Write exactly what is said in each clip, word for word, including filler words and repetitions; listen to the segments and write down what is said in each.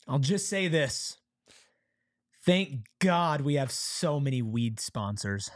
I'll just say this. Thank God we have so many weed sponsors.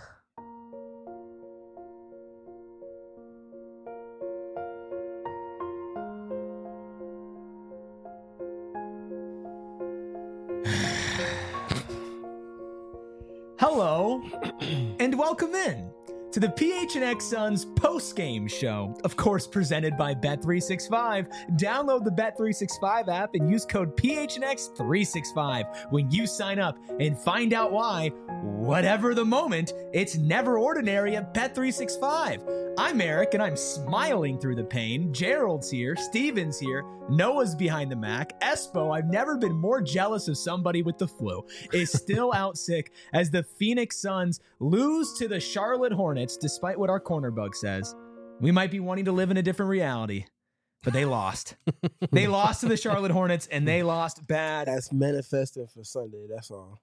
Hello, and welcome in to the P H N X Suns post-game show, of course presented by Bet three sixty-five. Download the Bet three sixty-five app and use code P H N X three sixty-five when you sign up and find out why, whatever the moment, it's never ordinary at Bet three sixty-five. I'm Eric, and I'm smiling through the pain. Gerald's here, Steven's here, Noah's behind the Mac. Espo, I've never been more jealous of somebody with the flu, is still out sick as the Phoenix Suns lose to the Charlotte Hornets, despite what our corner bug says. We might be wanting to live in a different reality, but they lost. They lost to the Charlotte Hornets, and they lost bad. That's manifesting for Sunday, that's all.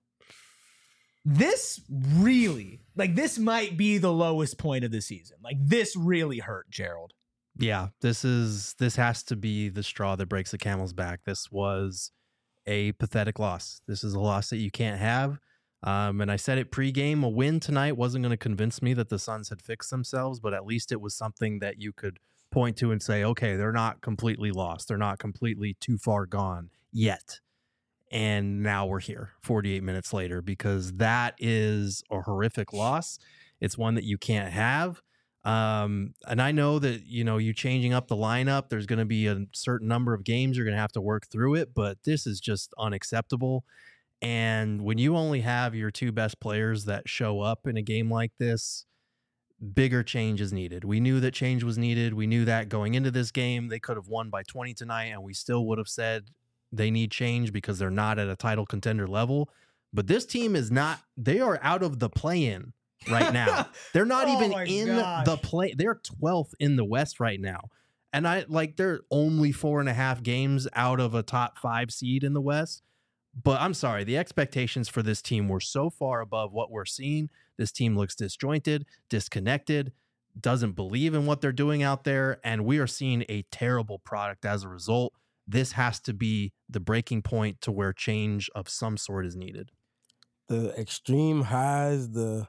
This really, like, this might be the lowest point of the season. Like, this really hurt, Gerald. Yeah, this is this has to be the straw that breaks the camel's back. This was a pathetic loss. This is a loss that you can't have. Um, and I said it pregame, a win tonight wasn't going to convince me that the Suns had fixed themselves, but at least it was something that you could point to and say, okay, they're not completely lost. They're not completely too far gone yet. And now we're here forty-eight minutes later, because that is a horrific loss. It's one that you can't have. Um, and I know that, you know, you changing up the lineup, there's going to be a certain number of games you're going to have to work through it, but this is just unacceptable. And when you only have your two best players that show up in a game like this, bigger change is needed. We knew that change was needed. We knew that going into this game, they could have won by twenty tonight, and we still would have said they need change because they're not at a title contender level. But this team is not, they are out of the play-in right now. They're not Oh even my in gosh. the play. They're twelfth in the West right now. And I like, they're only four and a half games out of a top five seed in the West. But I'm sorry, the expectations for this team were so far above what we're seeing. This team looks disjointed, disconnected, doesn't believe in what they're doing out there. And we are seeing a terrible product as a result. This has to be the breaking point to where change of some sort is needed. The extreme highs, the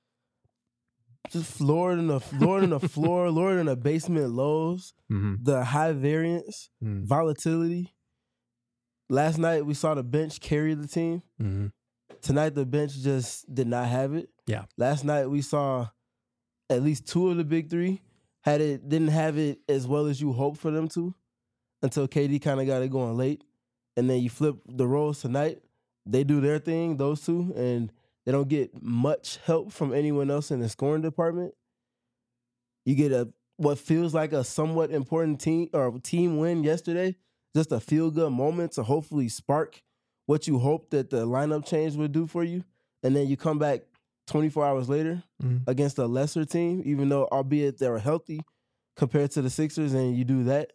just lower than the lower than the floor, lower than the basement lows, Mm-hmm. the high variance, Mm-hmm. volatility. Last night we saw the bench carry the team. Mm-hmm. Tonight the bench just did not have it. Yeah. Last night we saw at least two of the big three had it didn't have it as well as you hoped for them to, until K D kind of got it going late. And then you flip the roles tonight. They do their thing, those two, and they don't get much help from anyone else in the scoring department. You get a what feels like a somewhat important team or team win yesterday, just a feel-good moment to hopefully spark what you hope that the lineup change would do for you. And then you come back twenty-four hours later Mm-hmm. against a lesser team, even though, albeit they were healthy compared to the Sixers, and you do that.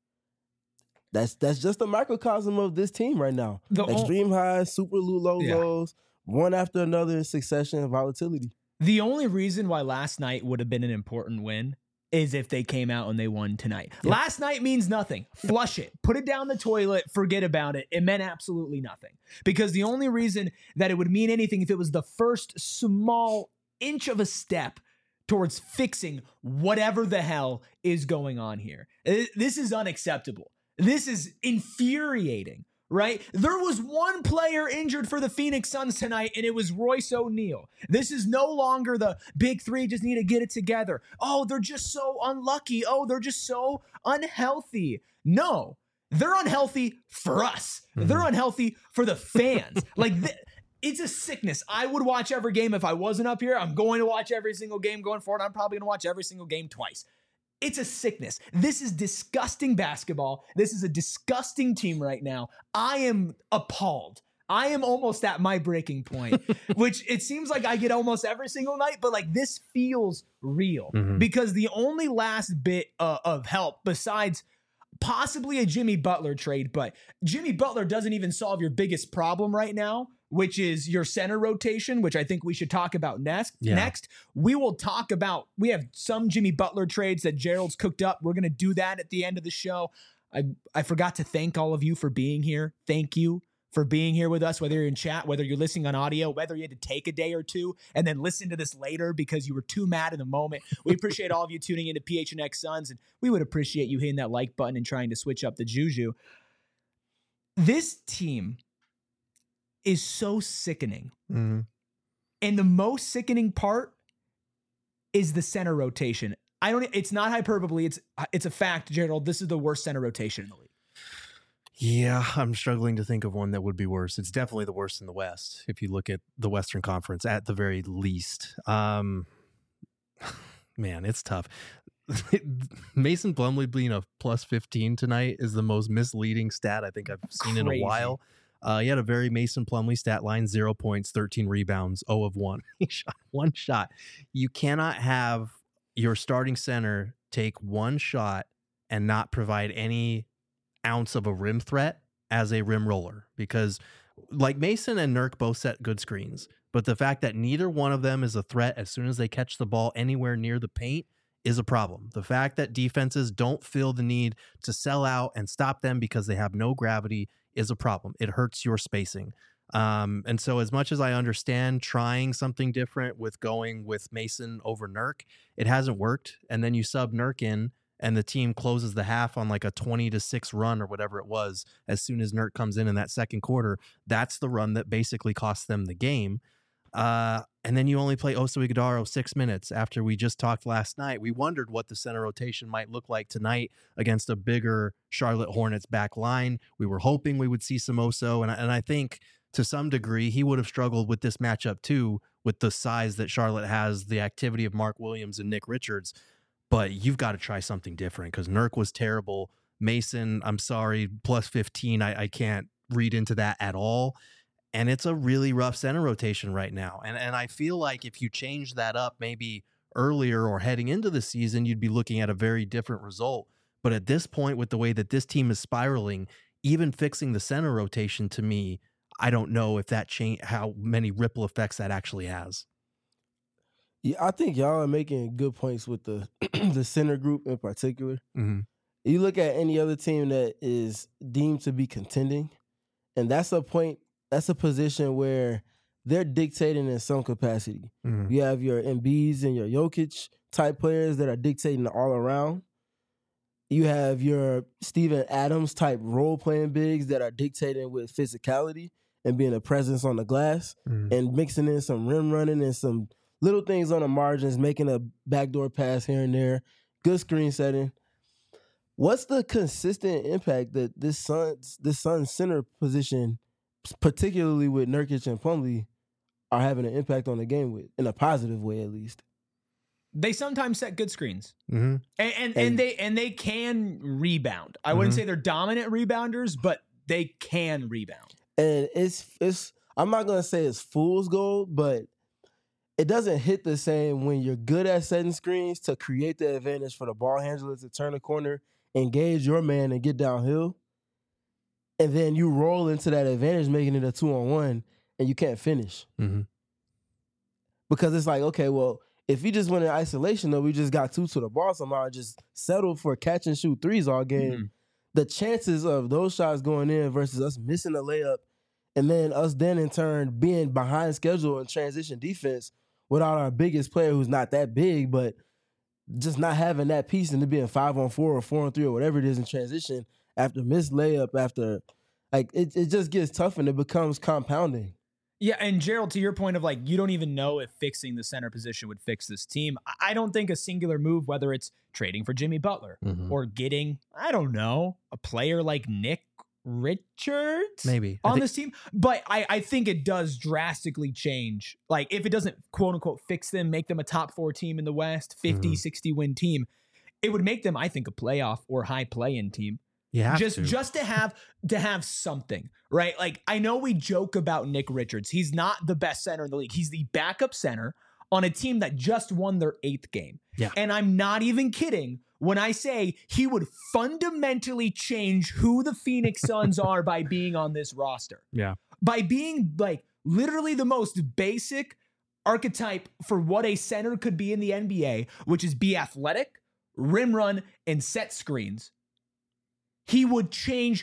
That's that's just a microcosm of this team right now. The o- Extreme highs, super low Yeah. lows, one after another in succession, volatility. The only reason why last night would have been an important win is if they came out and they won tonight. Yeah. Last night means nothing. Flush it. Put it down the toilet. Forget about it. It meant absolutely nothing. Because the only reason that it would mean anything if it was the first small inch of a step towards fixing whatever the hell is going on here. Uh, This is unacceptable. This is infuriating, right? There was one player injured for the Phoenix Suns tonight, and it was Royce O'Neal. This is no longer the big three just need to get it together. Oh, they're just so unlucky. Oh, they're just so unhealthy. No, they're unhealthy for us. Mhm. They're unhealthy for the fans. Like, th- it's a sickness. I would watch every game if I wasn't up here. I'm going to watch every single game going forward. I'm probably going to watch every single game twice. It's a sickness. This is disgusting basketball. This is a disgusting team right now. I am appalled. I am almost at my breaking point, which it seems like I get almost every single night, but like this feels real Mhm. because the only last bit uh, of help besides possibly a Jimmy Butler trade, but Jimmy Butler doesn't even solve your biggest problem right now, which is your center rotation, which I think we should talk about next. Yeah. Next, we will talk about, we have some Jimmy Butler trades that Gerald's cooked up. We're going to do that at the end of the show. I, I forgot to thank all of you for being here. Thank you. for being here with us, whether you're in chat, whether you're listening on audio, whether you had to take a day or two and then listen to this later because you were too mad in the moment. We appreciate all of you tuning into P H N X Suns, and we would appreciate you hitting that like button and trying to switch up the juju. This team is so sickening. Mm-hmm. And the most sickening part is the center rotation. I don't, it's not hyperbole. It's, it's a fact, Gerald. This is the worst center rotation in the league. Yeah, I'm struggling to think of one that would be worse. It's definitely the worst in the West, if you look at the Western Conference at the very least. Um, man, it's tough. Mason Plumlee being a plus fifteen tonight is the most misleading stat I think I've seen Crazy. in a while. Uh, he had a very Mason Plumlee stat line, zero points, thirteen rebounds, zero of one. He shot one shot. You cannot have your starting center take one shot and not provide any ounce of a rim threat as a rim roller, because like Mason and Nurk both set good screens, but the fact that neither one of them is a threat as soon as they catch the ball anywhere near the paint is a problem. The fact that defenses don't feel the need to sell out and stop them because they have no gravity is a problem. It hurts your spacing. Um, and so as much as I understand trying something different with going with Mason over Nurk, it hasn't worked. And then you sub Nurk in, and the team closes the half on like a twenty to six run or whatever it was. As soon as Nurk comes in in that second quarter, that's the run that basically costs them the game. Uh, and then you only play Oso Ighodaro six minutes after we just talked last night. We wondered what the center rotation might look like tonight against a bigger Charlotte Hornets back line. We were hoping we would see some Oso, and, and I think to some degree he would have struggled with this matchup too, with the size that Charlotte has, the activity of Mark Williams and Nick Richards. But you've got to try something different because Nurk was terrible. Mason, I'm sorry, plus fifteen. I, I can't read into that at all. And it's a really rough center rotation right now. And and I feel like if you change that up maybe earlier or heading into the season, you'd be looking at a very different result. But at this point, with the way that this team is spiraling, even fixing the center rotation, to me, I don't know if that change, how many ripple effects that actually has. Yeah, I think y'all are making good points with the the center group in particular. Mm-hmm. You look at any other team that is deemed to be contending, and that's a point, that's a position where they're dictating in some capacity. Mm-hmm. You have your Embiids and your Jokic type players that are dictating all around. You have your Steven Adams type role-playing bigs that are dictating with physicality and being a presence on the glass, Mm-hmm. and mixing in some rim running and some little things on the margins, making a backdoor pass here and there, good screen setting. What's the consistent impact that this Suns, this Suns center position, particularly with Nurkic and Plumlee, are having an impact on the game with, in a positive way at least? They sometimes set good screens, Mm-hmm. and and, and And- they and they can rebound. I wouldn't Mhm. say they're dominant rebounders, but they can rebound. And it's it's I'm not gonna say it's fool's gold, but it doesn't hit the same when you're good at setting screens to create the advantage for the ball handler to turn the corner, engage your man, and get downhill. And then you roll into that advantage, making it a two-on-one, and you can't finish. Mm-hmm. Because it's like, okay, well, if we just went in isolation, though, we just got two to the ball somehow and just settled for catch and shoot threes all game, Mhm. the chances of those shots going in versus us missing a layup and then us then in turn being behind schedule in transition defense without our biggest player who's not that big, but just not having that piece and it being five on four or four on three or whatever it is in transition after missed layup, after like it, it just gets tough and it becomes compounding. Yeah, and Gerald, to your point of like, you don't even know if fixing the center position would fix this team. I- I don't think a singular move, whether it's trading for Jimmy Butler Mm-hmm. or getting, I don't know, a player like Nick Richards Maybe I on think- this team. But I, I think it does drastically change. Like if it doesn't quote unquote fix them, make them a top four team in the West, fifty, Mhm. sixty win team, it would make them, I think, a playoff or high play-in team. You have just to. just to have to have something, right? Like I know we joke about Nick Richards. He's not the best center in the league. He's the backup center on a team that just won their eighth game. Yeah. And I'm not even kidding when I say he would fundamentally change who the Phoenix Suns are by being on this roster. Yeah. By being like literally the most basic archetype for what a center could be in the N B A, which is be athletic, rim run, and set screens. He would change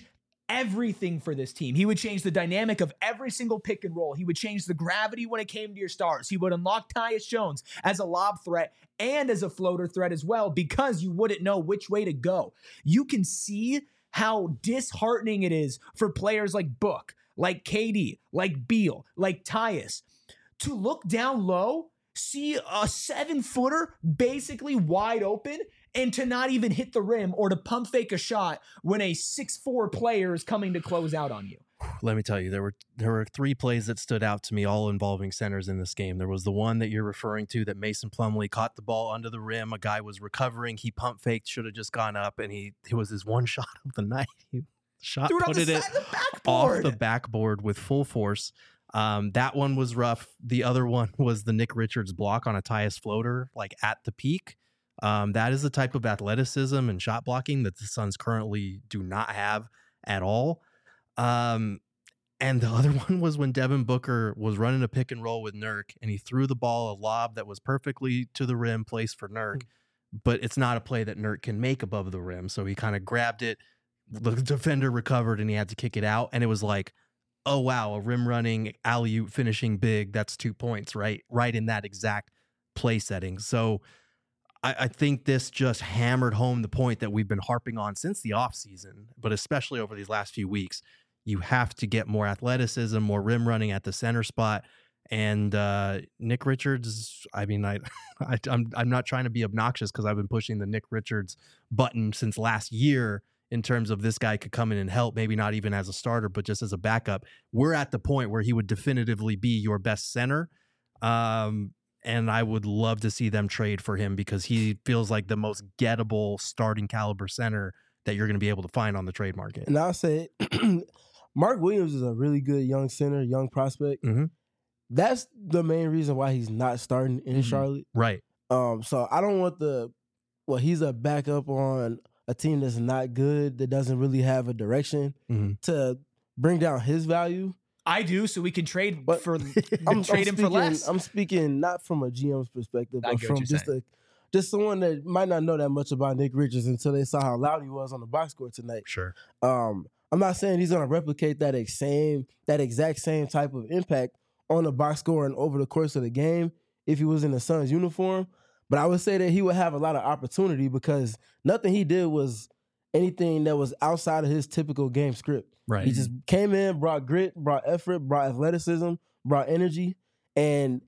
everything for this team. He would change the dynamic of every single pick and roll. He would change the gravity when it came to your stars. He would unlock Tyus Jones as a lob threat and as a floater threat as well, because you wouldn't know which way to go. You can see how disheartening it is for players like Book, like K D, like Beal, like Tyus, to look down low, see a seven footer basically wide open, and to not even hit the rim or to pump fake a shot when a six four player is coming to close out on you. Let me tell you, there were there were three plays that stood out to me, all involving centers in this game. There was the one that you're referring to that Mason Plumlee caught the ball under the rim. A guy was recovering. He pump faked, should have just gone up, and he it was his one shot of the night. He shot Threw it put off the it side of the backboard. off the backboard with full force. Um, that one was rough. The other one was the Nick Richards block on a Tyus floater, like at the peak. Um, that is the type of athleticism and shot blocking that the Suns currently do not have at all. Um, and the other one was when Devin Booker was running a pick and roll with Nurk, and he threw the ball a lob that was perfectly to the rim, placed for Nurk, but it's not a play that Nurk can make above the rim. So he kind of grabbed it, the defender recovered, and he had to kick it out. And it was like, oh, wow, a rim running, alley-oop finishing big, that's two points, right? Right in that exact play setting. So I, I think this just hammered home the point that we've been harping on since the offseason, but especially over these last few weeks. You have to get more athleticism, more rim running at the center spot. And uh, Nick Richards, I mean, I, I, I'm, I'm not trying to be obnoxious because I've been pushing the Nick Richards button since last year in terms of this guy could come in and help, maybe not even as a starter, but just as a backup. We're at the point where he would definitively be your best center. Um, and I would love to see them trade for him because he feels like the most gettable starting caliber center that you're going to be able to find on the trade market. And I'll say Mark Williams is a really good young center, young prospect. Mm-hmm. That's the main reason why he's not starting in mm-hmm. Charlotte. Right. Um, so I don't want the, well, he's a backup on a team that's not good, that doesn't really have a direction mm-hmm. to bring down his value. I do, so we can trade but for I'm, trade I'm him speaking, for less. I'm speaking not from a G M's perspective, I but from just saying. a just someone that might not know that much about Nick Richards until they saw how loud he was on the box score tonight. Sure. Um, I'm not saying he's going to replicate that ex- same that exact same type of impact on the box score and over the course of the game if he was in the Suns uniform, but I would say that he would have a lot of opportunity because nothing he did was anything that was outside of his typical game script. Right. He just came in, brought grit, brought effort, brought athleticism, brought energy, and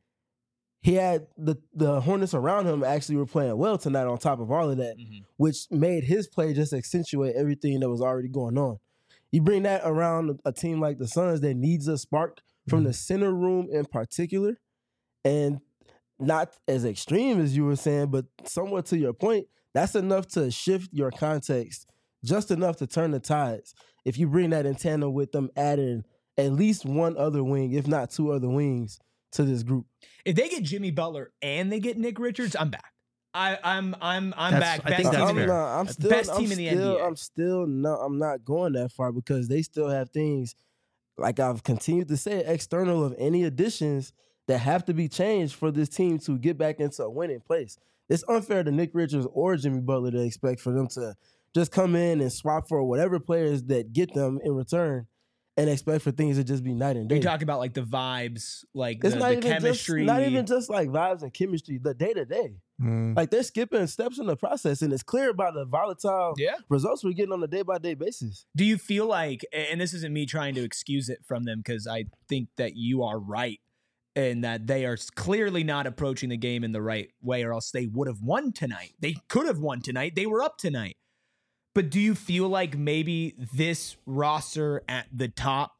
he had the the Hornets around him actually were playing well tonight on top of all of that, mm-hmm. which made his play just accentuate everything that was already going on. You bring that around a team like the Suns that needs a spark from mm-hmm. the center room in particular, and not as extreme as you were saying, but somewhat to your point, that's enough to shift your context, just enough to turn the tides. If you bring that in tandem with them adding at least one other wing, if not two other wings, to this group. If they get Jimmy Butler and they get Nick Richards, I'm back. I, I'm I'm I'm that's, back. I Best think that's team fair. in, not, I'm still, best I'm team in still, the N B A. I'm still not. I'm not going that far because they still have things, like I've continued to say, external of any additions that have to be changed for this team to get back into a winning place. It's unfair to Nick Richards or Jimmy Butler to expect for them to just come in and swap for whatever players that get them in return and expect for things to just be night and day. You talk about like the vibes, like it's the, not the even chemistry. Just, not even just like vibes and chemistry, the day to day. Like they're skipping steps in the process, and it's clear about the volatile yeah. results we're getting on a day by day basis. Do you feel like, and this isn't me trying to excuse it from them because I think that you are right, and that they are clearly not approaching the game in the right way, or else they would have won tonight. They could have won tonight. They were up tonight. But do you feel like maybe this roster at the top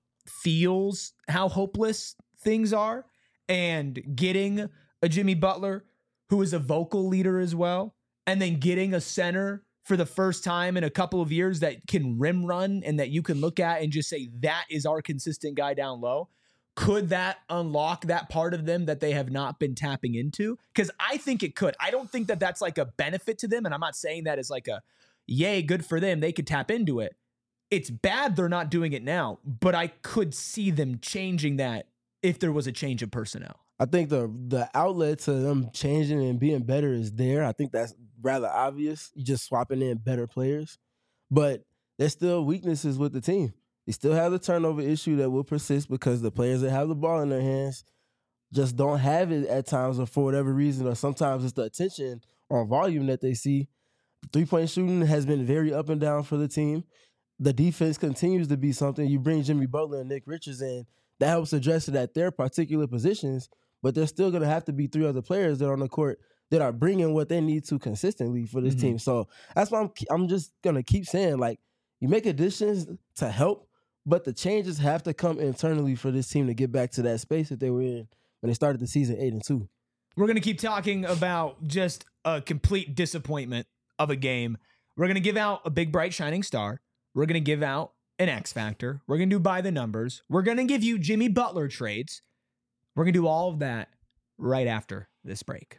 feels how hopeless things are, and getting a Jimmy Butler who is a vocal leader as well, and then getting a center for the first time in a couple of years that can rim run and that you can look at and just say, that is our consistent guy down low? Could that unlock that part of them that they have not been tapping into? Because I think it could. I don't think that that's like a benefit to them, and I'm not saying that as like a, yay, good for them, they could tap into it. It's bad they're not doing it now, but I could see them changing that if there was a change of personnel. I think the the outlet to them changing and being better is there. I think that's rather obvious. You just swapping in better players. But there's still weaknesses with the team. You still have the turnover issue that will persist because the players that have the ball in their hands just don't have it at times, or for whatever reason, or sometimes it's the attention or volume that they see. Three-point shooting has been very up and down for the team. The defense continues to be something. You bring Jimmy Butler and Nick Richards in, that helps address it at their particular positions, but there's still going to have to be three other players that are on the court that are bringing what they need to consistently for this mm-hmm. team. So that's why I'm, I'm just going to keep saying, like, you make additions to help, but the changes have to come internally for this team to get back to that space that they were in when they started the season eight and two. We're going to keep talking about just a complete disappointment of a game. We're going to give out a big, bright, shining star. We're going to give out an X factor. We're going to do by the numbers. We're going to give you Jimmy Butler trades. We're going to do all of that right after this break.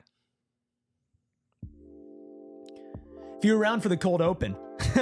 If you're around for the cold open,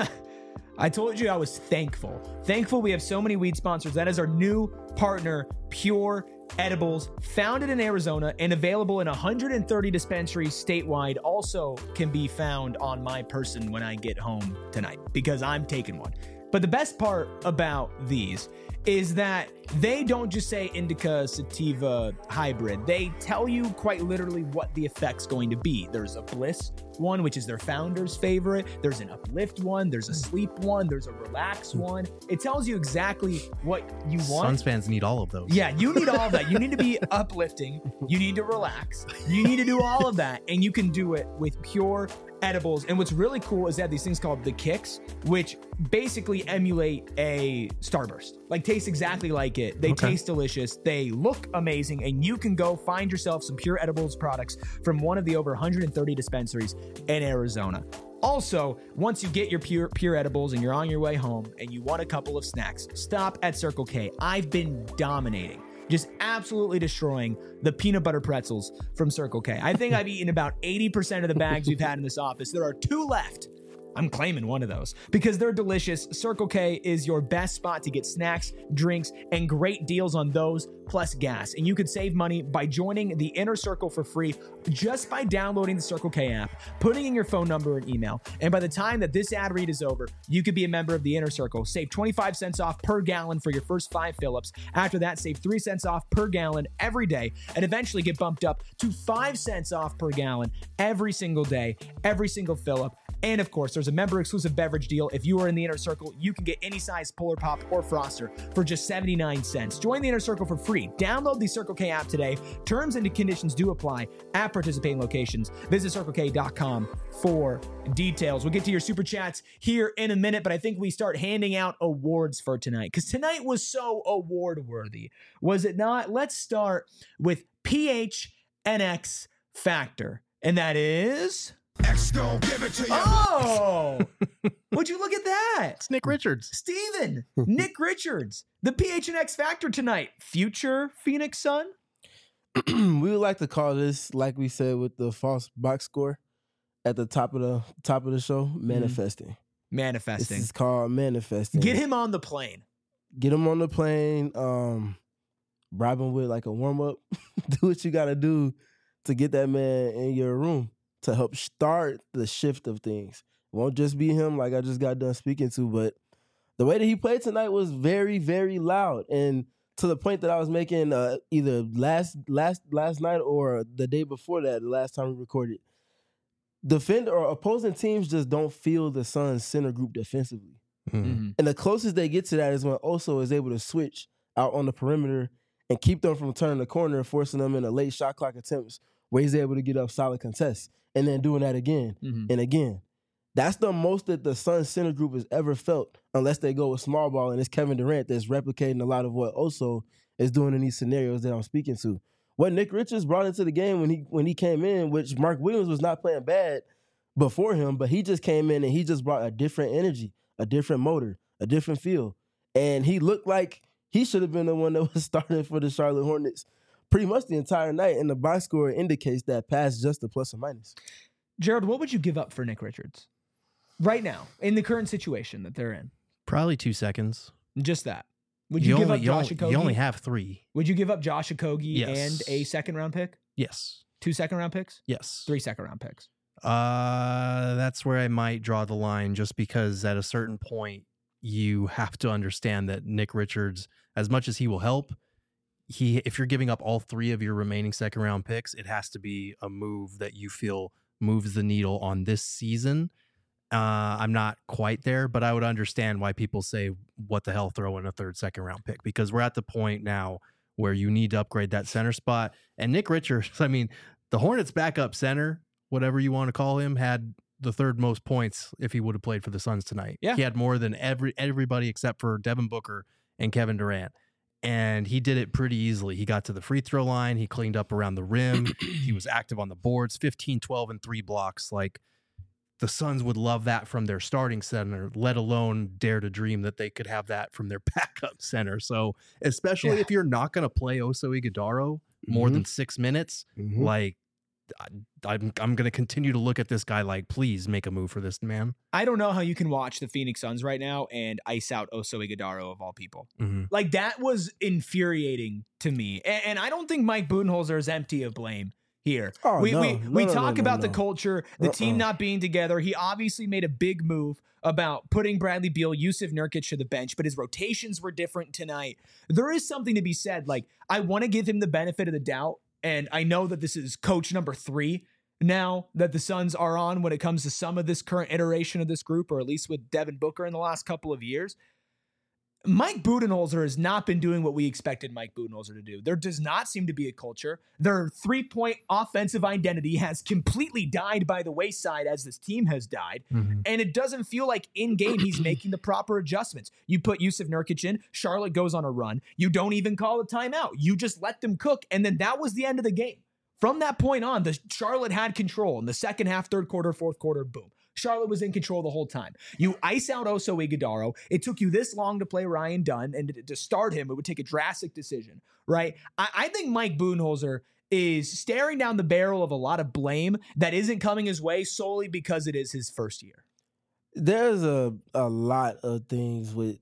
I told you I was thankful. Thankful we have so many weed sponsors. That is our new partner, Pure Edibles, founded in Arizona and available in one hundred thirty dispensaries statewide. Also can be found on my person when I get home tonight because I'm taking one. But the best part about these is that they don't just say indica sativa hybrid. They tell you quite literally what the effect's going to be. There's a bliss one, which is their founder's favorite. There's an uplift one. There's a sleep one. There's a relax one. It tells you exactly what you want. Suns fans need all of those. Yeah, you need all of that. You need to be uplifting. You need to relax. You need to do all of that. And you can do it with Pure Edibles. And what's really cool is they have these things called the Kicks, which basically emulate a Starburst. Like, taste exactly like it. They okay. taste delicious. They look amazing. And you can go find yourself some Pure Edibles products from one of the over one hundred thirty dispensaries in Arizona. Also, once you get your Pure Pure Edibles and you're on your way home and you want a couple of snacks, stop at Circle K. I've been dominating. Just absolutely destroying the peanut butter pretzels from Circle K. I think I've eaten about eighty percent of the bags we've had in this office. There are two left. I'm claiming one of those because they're delicious. Circle K is your best spot to get snacks, drinks, and great deals on those, plus gas. And you could save money by joining the Inner Circle for free just by downloading the Circle K app, putting in your phone number and email. And by the time that this ad read is over, you could be a member of the Inner Circle. Save twenty-five cents off per gallon for your first five fill-ups. After that, save three cents off per gallon every day and eventually get bumped up to five cents off per gallon every single day, every single fill-up. And of course, there's a member exclusive beverage deal. If you are in the Inner Circle, you can get any size Polar Pop or Froster for just seventy-nine cents. Join the Inner Circle for free. Download the Circle K app today. Terms and conditions do apply at participating locations. Visit circle k dot com for details. We'll get to your super chats here in a minute, but I think we start handing out awards for tonight because tonight was so award worthy, was it not? Let's start with P H N X Factor, and that is X gon' give it to you. Oh, would you look at that? It's Nick Richards. Steven, Nick Richards, the P H N X Factor tonight. Future Phoenix Sun? We would like to call this, like we said with the false box score at the top of the top of the show, manifesting. Mm-hmm. Manifesting. This is called manifesting. Get him on the plane. Get him on the plane. Um, bribe him with like a warm-up. Do what you got to do to get that man in your room to help start the shift of things. It won't just be him like I just got done speaking to, but the way that he played tonight was very, very loud. And to the point that I was making uh, either last last last night or the day before that, the last time we recorded, defend or opposing teams just don't feel the Suns' center group defensively. Mm-hmm. And the closest they get to that is when Oso is able to switch out on the perimeter and keep them from turning the corner and forcing them into late shot clock attempts where he's able to get up solid contests and then doing that again mm-hmm. and again. That's the most that the Suns center group has ever felt, unless they go with small ball, and it's Kevin Durant that's replicating a lot of what Oso is doing in these scenarios that I'm speaking to. What Nick Richards brought into the game when he when he came in, which Mark Williams was not playing bad before him, but he just came in and he just brought a different energy, a different motor, a different feel. And he looked like he should have been the one that was starting for the Charlotte Hornets pretty much the entire night, and the box score indicates that past just a plus or minus. Gerald, what would you give up for Nick Richards right now in the current situation that they're in? Probably two seconds. Just that. Would you, you give only, up Josh you Okogie? You only have three. Would you give up Josh Okogie yes. and a second round pick? Yes. Two second round picks? Yes. Three second round picks? Uh, that's where I might draw the line, just because at a certain point, you have to understand that Nick Richards, as much as he will help, he if you're giving up all three of your remaining second round picks, it has to be a move that you feel moves the needle on this season. Uh, I'm not quite there, but I would understand why people say, what the hell, throw in a third, second round pick, because we're at the point now where you need to upgrade that center spot. And Nick Richards, I mean, the Hornets backup center, whatever you want to call him, had the third most points if he would have played for the Suns tonight. Yeah. He had more than every everybody except for Devin Booker and Kevin Durant. And he did it pretty easily. He got to the free throw line. He cleaned up around the rim. He was active on the boards, fifteen, twelve, and three blocks. Like, the Suns would love that from their starting center, let alone dare to dream that they could have that from their backup center. So especially Yeah. if you're not going to play Oso Ighodaro more Mhm. than six minutes, Mhm. like, I, I'm I'm going to continue to look at this guy like, please make a move for this man. I don't know how you can watch the Phoenix Suns right now and ice out Oso Ighodaro of all people. Mm-hmm. Like, that was infuriating to me. And, and I don't think Mike Budenholzer is empty of blame here. Oh, we no. we, No, we no, talk no, about no, the no. culture, the team Uh-uh. not being together. He obviously made a big move about putting Bradley Beal, Yusuf Nurkic to the bench, but his rotations were different tonight. There is something to be said. Like, I want to give him the benefit of the doubt, and I know that this is coach number three now that the Suns are on when it comes to some of this current iteration of this group, or at least with Devin Booker in the last couple of years. Mike Budenholzer has not been doing what we expected Mike Budenholzer to do. There does not seem to be a culture. Their three-point offensive identity has completely died by the wayside as this team has died. Mm-hmm. And it doesn't feel like in-game he's making the proper adjustments. You put Yusuf Nurkic in, Charlotte goes on a run. You don't even call a timeout. You just let them cook, and then that was the end of the game. From that point on, the Charlotte had control. In the second half, third quarter, fourth quarter, boom. Charlotte was in control the whole time. You ice out Oso Ighodaro. It took you this long to play Ryan Dunn, and to, to start him, it would take a drastic decision, right? I, I think Mike Budenholzer is staring down the barrel of a lot of blame that isn't coming his way solely because it is his first year. There's a a lot of things with.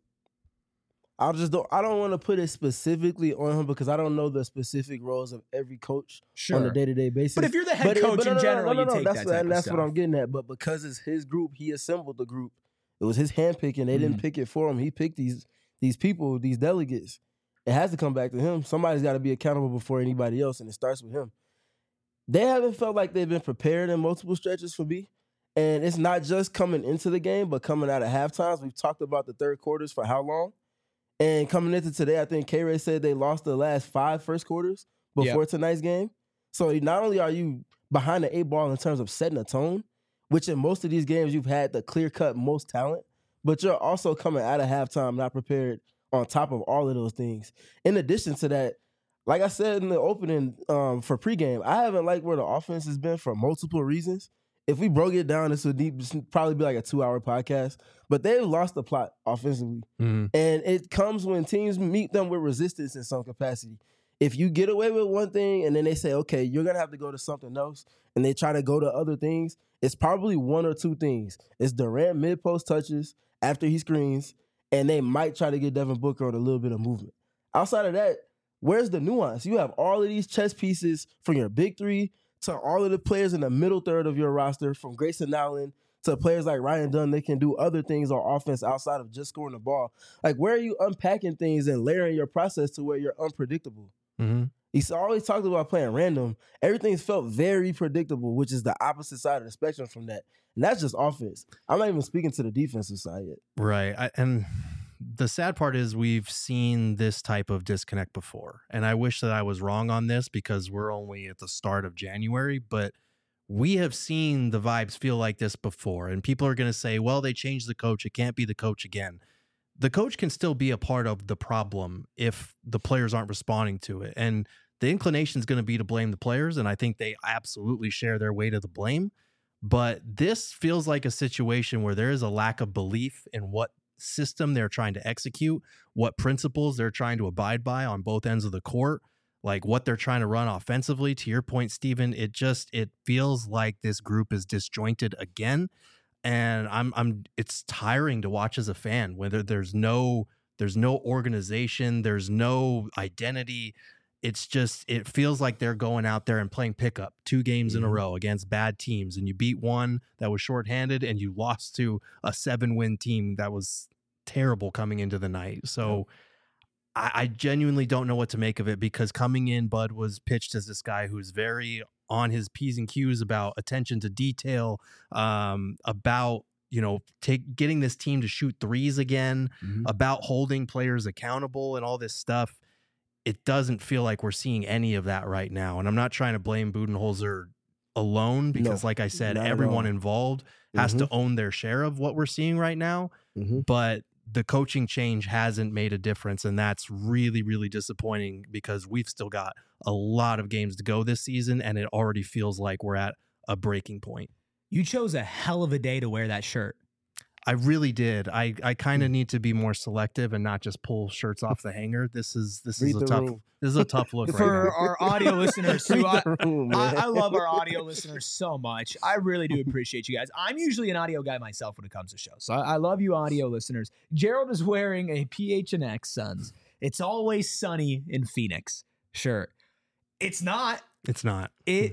I just don't. I don't want to put it specifically on him because I don't know the specific roles of every coach on a day to day basis. But if you're the head But it- coach but no, in no, no, general, no, no, you no, take that's that what, type and of that's stuff. what I'm getting at. But because it's his group, he assembled the group. It was his handpicking. They didn't Mhm. pick it for him. He picked these these people, these delegates. It has to come back to him. Somebody's got to be accountable before anybody else, and it starts with him. They haven't felt like they've been prepared in multiple stretches for me. And it's not just coming into the game, but coming out of halftimes. We've talked about the third quarters for how long? And coming into today, I think K-Ray said they lost the last five first quarters before tonight's game. So not only are you behind the eight ball in terms of setting a tone, which in most of these games you've had the clear-cut most talent, but you're also coming out of halftime not prepared on top of all of those things. In addition to that, like I said in the opening um, for pregame, I haven't liked where the offense has been for multiple reasons. If we broke it down, this would deep, this would probably be like a two-hour podcast. But they've lost the plot offensively. Mm-hmm. And it comes when teams meet them with resistance in some capacity. If you get away with one thing and then they say, okay, you're going to have to go to something else, and they try to go to other things, it's probably one or two things. It's Durant mid-post touches after he screens, and they might try to get Devin Booker on a little bit of movement. Outside of that, where's the nuance? You have all of these chess pieces from your big three to all of the players in the middle third of your roster, from Grayson Allen to players like Ryan Dunn. They can do other things on offense outside of just scoring the ball. Like, where are you unpacking things and layering your process to where you're unpredictable? Mm-hmm. He's always talked about playing random. Everything's felt very predictable, which is the opposite side of the spectrum from that. And that's just offense. I'm not even speaking to the defensive side yet. Right. I, and the sad part is we've seen this type of disconnect before. And I wish that I was wrong on this because we're only at the start of January, but we have seen the vibes feel like this before. And people are going to say, well, they changed the coach. It can't be the coach again. The coach can still be a part of the problem if the players aren't responding to it. And the inclination is going to be to blame the players. And I think they absolutely share their weight of the blame. But this feels like a situation where there is a lack of belief in what system they're trying to execute, what principles they're trying to abide by on both ends of the court, like what they're trying to run offensively. To your point, Steven, it just, it feels like this group is disjointed again. And I'm, I'm, it's tiring to watch as a fan, whether there's no, there's no organization, there's no identity. It's just, it feels like they're going out there and playing pickup two games mm-hmm. in a row against bad teams. And you beat one that was shorthanded and you lost to a seven win team that was terrible coming into the night. So I, I genuinely don't know what to make of it, because coming in, Bud was pitched as this guy who's very on his P's and Q's about attention to detail, um, about, you know, take getting this team to shoot threes again, Mhm. about holding players accountable and all this stuff. It doesn't feel like we're seeing any of that right now. And I'm not trying to blame Budenholzer alone, because No, like I said, not at everyone all. involved has to Mhm. own their share of what we're seeing right now. Mhm. But the coaching change hasn't made a difference. And that's really, really disappointing, because we've still got a lot of games to go this season, and it already feels like we're at a breaking point. You chose a hell of a day to wear that shirt. I really did. I, I kind Hmm. of need to be more selective and not just pull shirts off the hanger. This is this Read is a the tough room. this is a tough look For right our audio listeners, Read who I, the room, I, man. I love our audio listeners so much. I really do appreciate you guys. I'm usually an audio guy myself when it comes to shows, so I, I love you audio listeners. Gerald is wearing a P H N X Suns "It's Always Sunny in Phoenix" shirt. It's not. now. It's not. It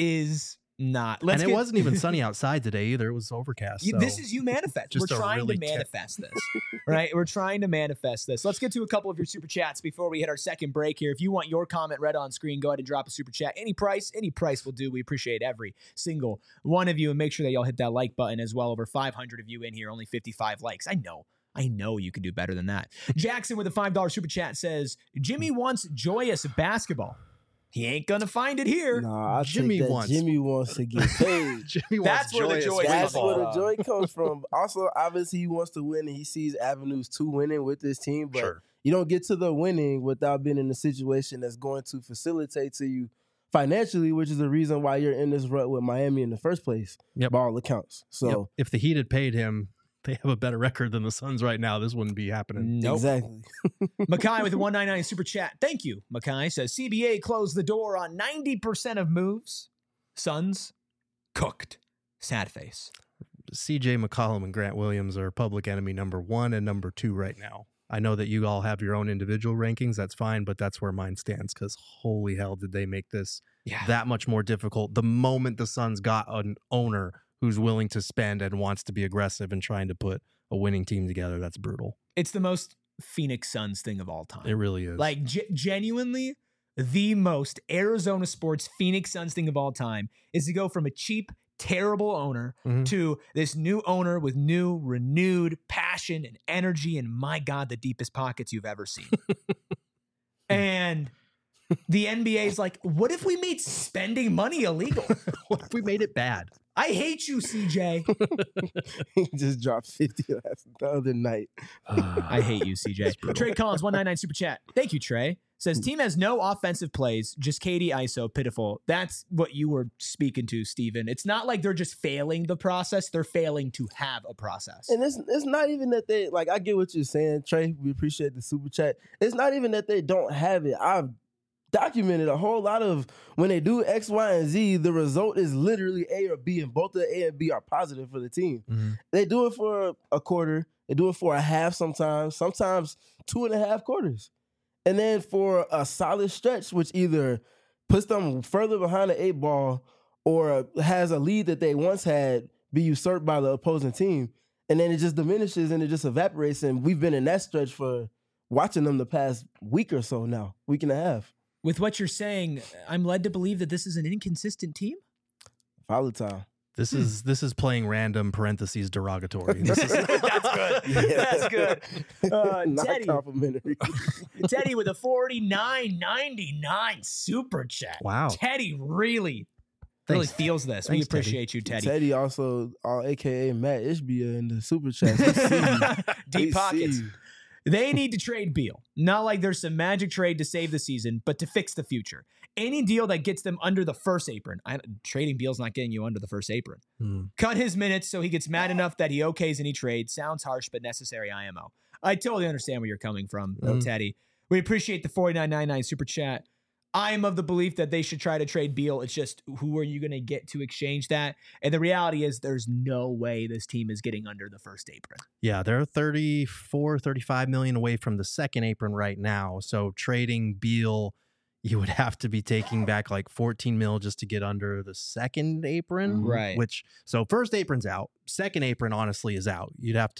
is not. Let's and it get- wasn't even sunny outside today either. It was overcast. You- so This is you manifest. We're just a trying really to ter- manifest this, right? We're trying to manifest this. Let's get to a couple of your super chats before we hit our second break here. If you want your comment read on screen, go ahead and drop a super chat. Any price, any price will do. We appreciate every single one of you, and make sure that y'all hit that like button as well. Over five hundred of you in here, only fifty-five likes. I know. I know you can do better than that. Jackson with a five dollar super chat says, Jimmy wants joyous basketball. He ain't going to find it here. Nah, I Jimmy think that wants- Jimmy wants to get paid. Jimmy That's wants where the joyous joy That's comes where from. the joy comes from. Also, obviously, he wants to win, and he sees avenues to winning with this team. But Sure. you don't get to the winning without being in a situation that's going to facilitate to you financially, which is the reason why you're in this rut with Miami in the first place. Yep. By all accounts. So Yep. If the Heat had paid him, they have a better record than the Suns right now. This wouldn't be happening. Nope. exactly. Makai with the one ninety-nine super chat. Thank you, Makai. Says C B A closed the door on ninety percent of moves. Suns cooked. Sad face. C J McCollum and Grant Williams are public enemy number one and number two right now. I know that you all have your own individual rankings. That's fine, but that's where mine stands, because holy hell did they make this Yeah. that much more difficult the moment the Suns got an owner who's willing to spend and wants to be aggressive and trying to put a winning team together. That's brutal. It's the most Phoenix Suns thing of all time. It really is. Like, ge- genuinely, the most Arizona sports Phoenix Suns thing of all time is to go from a cheap, terrible owner Mhm. to this new owner with new, renewed passion and energy, and my God, the deepest pockets you've ever seen. And the N B A is like, what if we made spending money illegal? What if we made it bad? I hate you, C J. He just dropped fifty last the other night. I hate you, C J. Trey Collins, one ninety-nine super chat. Thank you, Trey. Says team has no offensive plays, just K D I S O, pitiful. That's what you were speaking to, Steven. It's not like they're just failing the process. They're failing to have a process. And it's it's not even that they like. I get what you're saying, Trey. We appreciate the super chat. It's not even that they don't have it. I've documented a whole lot of when they do X, Y, and Z. The result is literally A or B, and both the A and B are positive for the team. Mhm. They do it for a quarter. They do it for a half sometimes. Sometimes two and a half quarters, and then for a solid stretch, which either puts them further behind the eight ball or has a lead that they once had be usurped by the opposing team. And then it just diminishes and it just evaporates. And we've been in that stretch for watching them the past week or so now, week and a half. With what you're saying, I'm led to believe that this is an inconsistent team. Volatile. This is this is playing random parentheses derogatory. This is, That's good. That's good. Uh, Not Teddy, complimentary. Teddy with a forty-nine ninety-nine super chat. wow. Teddy really, really Thanks. feels this. Thanks, we appreciate you, Teddy. Teddy also, uh, A K A Matt Ishbia in the super chat. We see you. We Deep pockets. see you. They need to trade Beal. Not like there's some magic trade to save the season, but to fix the future. Any deal that gets them under the first apron. I, trading Beal's not getting you under the first apron. Hmm. Cut his minutes so he gets mad enough that he okays any trade. Sounds harsh, but necessary I M O. I totally understand where you're coming from, though, Mhm. Teddy. We appreciate the forty-nine ninety-nine super chat. I am of the belief that they should try to trade Beal. It's just, who are you going to get to exchange that? And the reality is there's no way this team is getting under the first apron. Yeah, they're thirty-four, thirty-five million away from the second apron right now. So trading Beal, you would have to be taking back like fourteen mil just to get under the second apron. Right. Which, so first apron's out. Second apron, honestly, is out. You'd have to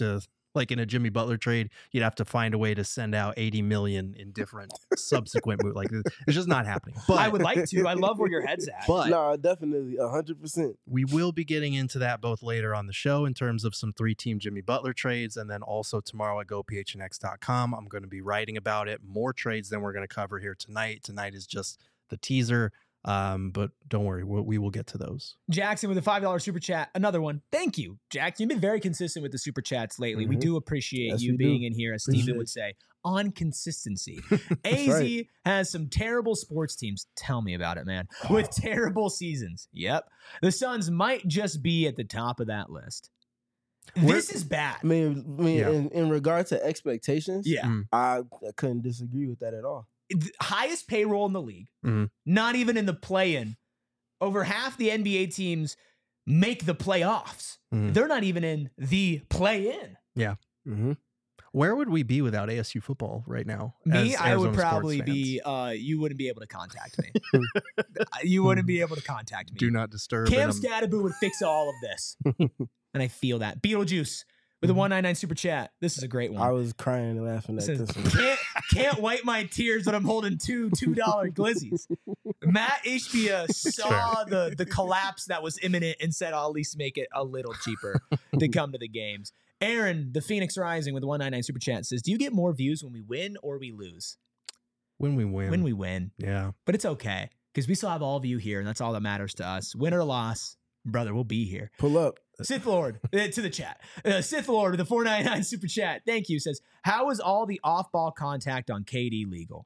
Like in a Jimmy Butler trade, you'd have to find a way to send out eighty million in different subsequent moves. Like it's just not happening. But I would like to. I love where your head's at. But no, definitely a hundred percent. We will be getting into that both later on the show in terms of some three-team Jimmy Butler trades, and then also tomorrow at go p h n x dot com, I'm going to be writing about it. More trades than we're going to cover here tonight. Tonight is just the teaser. Um, but don't worry, we'll, we will get to those. Jackson with a five dollar super chat. Another one. Thank you, Jackson. You've been very consistent with the super chats lately. Mm-hmm. We do appreciate yes, you we being do. in here, as Appreciate Steven it. would say, on consistency. A Z right. has some terrible sports teams. Tell me about it, man. With terrible seasons. Yep. The Suns might just be at the top of that list. Where- This is bad. I mean, I mean Yeah. in, in regard to expectations, Yeah. Mm. I, I couldn't disagree with that at all. The highest payroll in the league, Mhm. not even in the play-in. Over half the N B A teams make the playoffs. Mhm. They're not even in the play-in. Mm-hmm. Where would we be without A S U football right now? Me, as I would Arizona sports probably fans? be, uh, you wouldn't be able to contact me. You wouldn't be able to contact me. Do not disturb. Cam and I'm- Stadaboo would fix all of this. And I feel that. Beetlejuice with a one ninety-nine super chat. This is a great one. I was crying and laughing It at says, this one. can't, can't wipe my tears when I'm holding two two dollar glizzies. Matt Ishbia saw the, the collapse that was imminent and said, I'll at least make it a little cheaper to come to the games. Aaron, the Phoenix Rising with the one ninety-nine super chat says, do you get more views when we win or we lose? when we win. When we win. yeah. But it's okay because we still have all of you here, and that's all that matters to us. Win or loss, brother, we'll be here. Pull up. Sith Lord uh, to the chat. Uh, Sith Lord with the four ninety-nine super chat. Thank you. Says, how is all the off-ball contact on K D legal?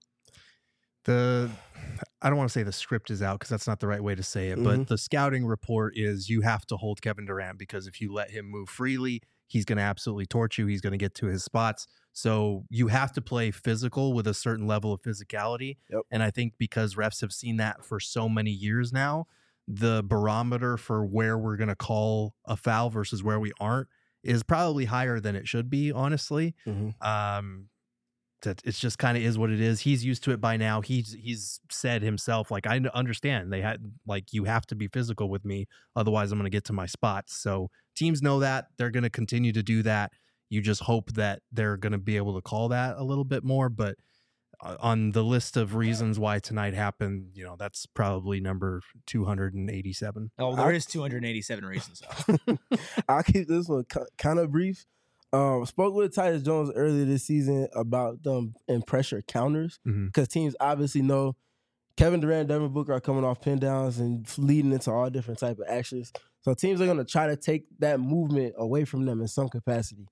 The I don't want to say the script is out because that's not the right way to say it, but Mhm. the scouting report is you have to hold Kevin Durant because if you let him move freely, he's going to absolutely torch you. He's going to get to his spots. So you have to play physical with a certain level of physicality. Yep. And I think because refs have seen that for so many years now, the barometer for where we're going to call a foul versus where we aren't is probably higher than it should be, honestly. Mhm. Um, that it's just kind of is what it is. He's used to it by now. He's he's said himself, like, I understand they had like you have to be physical with me, otherwise I'm going to get to my spots. So teams know that they're going to continue to do that. You just hope that they're going to be able to call that a little bit more. But uh, on the list of reasons why tonight happened, you know, that's probably number two hundred eighty-seven. Oh, there is two hundred eighty-seven reasons. Though. I'll keep this one kind of brief. Um, spoke with Tyus Jones earlier this season about them and pressure counters Mhm. because teams obviously know Kevin Durant and Devin Booker are coming off pin downs and leading into all different type of actions. So teams are going to try to take that movement away from them in some capacity.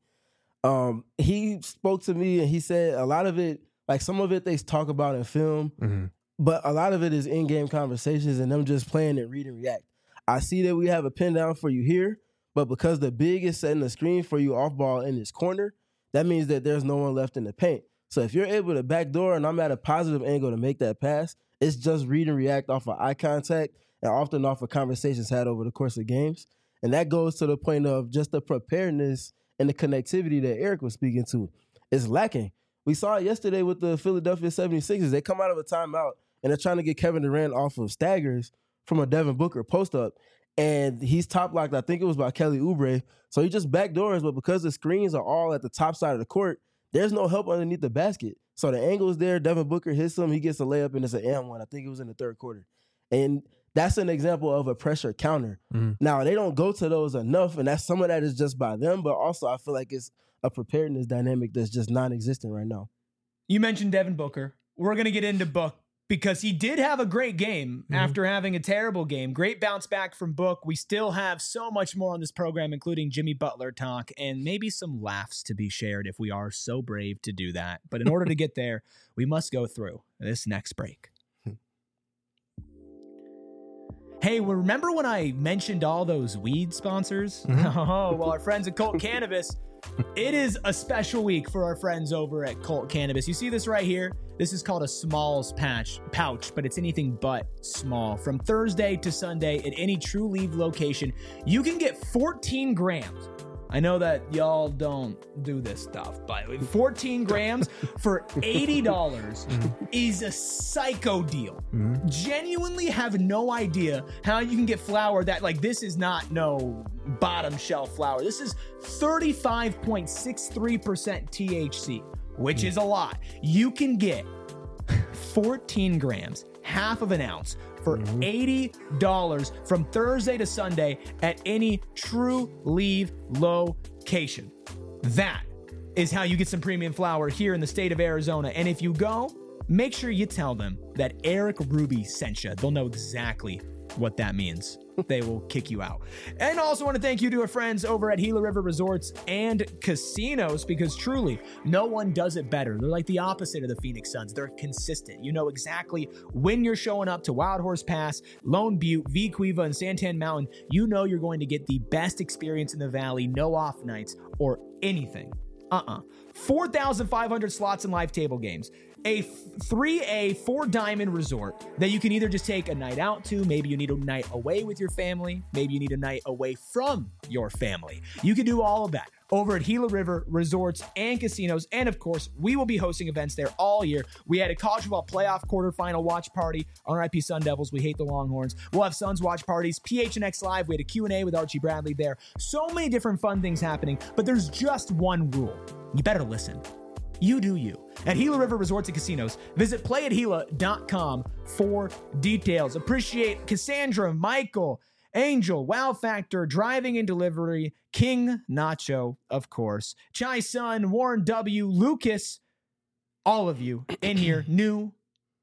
Um, he spoke to me and he said a lot of it, like some of it they talk about in film, Mm-hmm. but a lot of it is in-game conversations and them just playing and read and react. I see that we have a pin down for you here, but because the big is setting the screen for you off ball in this corner, that means that there's no one left in the paint. So if you're able to backdoor and I'm at a positive angle to make that pass, it's just read and react off of eye contact and often off of conversations had over the course of games. And that goes to the point of just the preparedness and the connectivity that Eric was speaking to. It's lacking. We saw it yesterday with the Philadelphia seventy-sixers. They come out of a timeout and they're trying to get Kevin Durant off of staggers from a Devin Booker post-up. And he's top locked, I think it was by Kelly Oubre. So he just backdoors, but because the screens are all at the top side of the court, there's no help underneath the basket. So the angle is there. Devin Booker hits him. He gets a layup, and it's an and one. I think it was in the third quarter. And that's an example of a pressure counter. Mhm. Now, they don't go to those enough, and that's some of that is just by them, but also I feel like it's a preparedness dynamic that's just non-existent right now. You mentioned Devin Booker. We're going to get into Book because he did have a great game Mhm. after having a terrible game. Great bounce back from Book. We still have so much more on this program, including Jimmy Butler talk and maybe some laughs to be shared if we are so brave to do that. But in order to get there, we must go through this next break. Hey, well, remember when I mentioned all those weed sponsors? Mhm. Oh, well, our friends at Colt Cannabis, it is a special week for our friends over at Colt Cannabis. You see this right here? This is called a Smalls patch, pouch, but it's anything but small. From Thursday to Sunday at any True Leaf location, you can get fourteen grams I know that y'all don't do this stuff, but fourteen grams for eighty dollars is a psycho deal. Mm-hmm. Genuinely have no idea how you can get flour that, like, this is not no bottom shelf flour. This is thirty-five point six three percent T H C, which mm-hmm. is a lot. You can get fourteen grams, half of an ounce, for mm-hmm. eighty dollars from Thursday to Sunday at any True Leave location. That is how you get some premium flour here in the state of Arizona. And if you go, make sure you tell them that Eric Ruby sent you. They'll know exactly what that means. They will kick you out. And also want to thank you to our friends over at Gila River Resorts and Casinos, because truly no one does it better. They're like the opposite of the Phoenix Suns. They're consistent. You know exactly when you're showing up to Wild Horse Pass, Lone Butte, V Cueva, and Santan Mountain. You know you're going to get the best experience in the valley, no off nights or anything. Uh-uh. four thousand five hundred slots and live table games. A three A, four diamond resort that you can either just take a night out to. Maybe you need a night away with your family. Maybe you need a night away from your family. You can do all of that over at Gila River Resorts and Casinos. And of course, we will be hosting events there all year. We had a college football playoff quarterfinal watch party. R I P Sun Devils. We hate the Longhorns. We'll have Suns watch parties. P H N X Live. We had a Q and A with Archie Bradley there. So many different fun things happening, but there's just one rule. You better listen. You do you. At Gila River Resorts and Casinos, visit play at gila dot com for details. Appreciate Cassandra, Michael, Angel, Wow Factor, Driving and Delivery, King Nacho, of course, Chai Sun, Warren W, Lucas, all of you in here, new,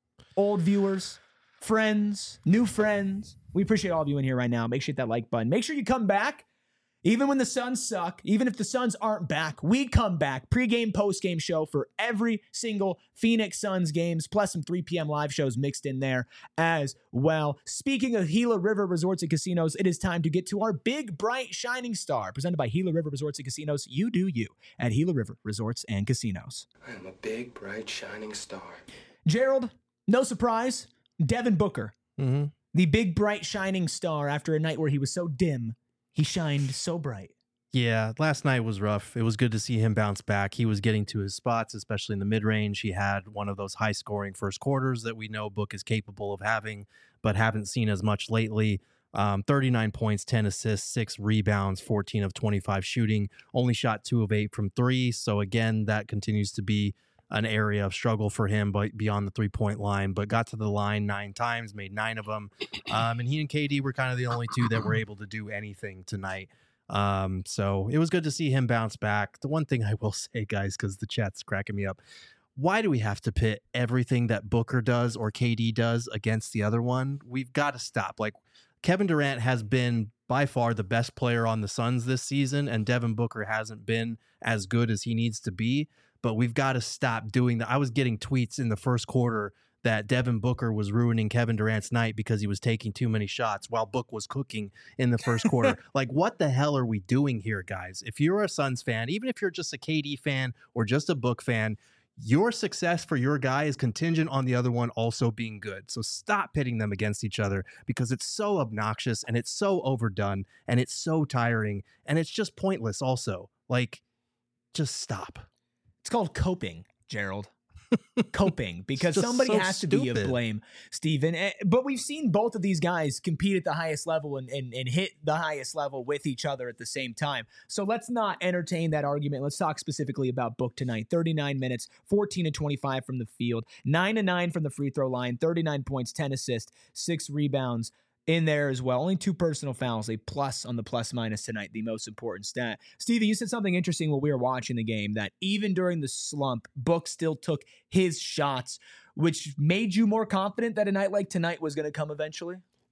old viewers, friends, new friends. We appreciate all of you in here right now. Make sure you hit that like button. Make sure you come back. Even when the Suns suck, even if the Suns aren't back, we come back. Pre-game, post-game show for every single Phoenix Suns games, plus some three p.m. live shows mixed in there as well. Speaking of Gila River Resorts and Casinos, it is time to get to our big, bright, shining star, presented by Gila River Resorts and Casinos. You do you at Gila River Resorts and Casinos. I am a big, bright, shining star. Gerald, no surprise, Devin Booker, mm-hmm. the big, bright, shining star after a night where he was so dim. He shined so bright. Yeah, last night was rough. It was good to see him bounce back. He was getting to his spots, especially in the mid-range. He had one of those high-scoring first quarters that we know Book is capable of having, but haven't seen as much lately. Um, thirty-nine points, ten assists, six rebounds, fourteen of twenty-five shooting. Only shot two of eight from three. So, again, that continues to be an area of struggle for him, but beyond the three-point line, but got to the line nine times, made nine of them. Um, and he and K D were kind of the only two that were able to do anything tonight. Um, so it was good to see him bounce back. The one thing I will say, guys, because the chat's cracking me up, why do we have to pit everything that Booker does or K D does against the other one? We've got to stop. Like, Kevin Durant has been by far the best player on the Suns this season, and Devin Booker hasn't been as good as he needs to be. But we've got to stop doing that. I was getting tweets in the first quarter that Devin Booker was ruining Kevin Durant's night because he was taking too many shots while Book was cooking in the first quarter. Like, what the hell are we doing here, guys? If you're a Suns fan, even if you're just a K D fan or just a Book fan, your success for your guy is contingent on the other one also being good. So stop pitting them against each other, because it's so obnoxious and it's so overdone and it's so tiring and it's just pointless also. Like, just stop. It's called coping, Gerald. Coping, because somebody so has stupid. to be to blame, Steven. But we've seen both of these guys compete at the highest level and, and, and hit the highest level with each other at the same time. So let's not entertain that argument. Let's talk specifically about Book tonight. thirty-nine minutes, fourteen and twenty-five from the field, nine and nine from the free throw line, thirty-nine points, ten assists, six rebounds in there as well. Only two personal fouls, a plus on the plus minus tonight, the most important stat. Steven, you said something interesting while we were watching the game, that even during the slump, Book still took his shots, which made you more confident that a night like tonight was going to come eventually?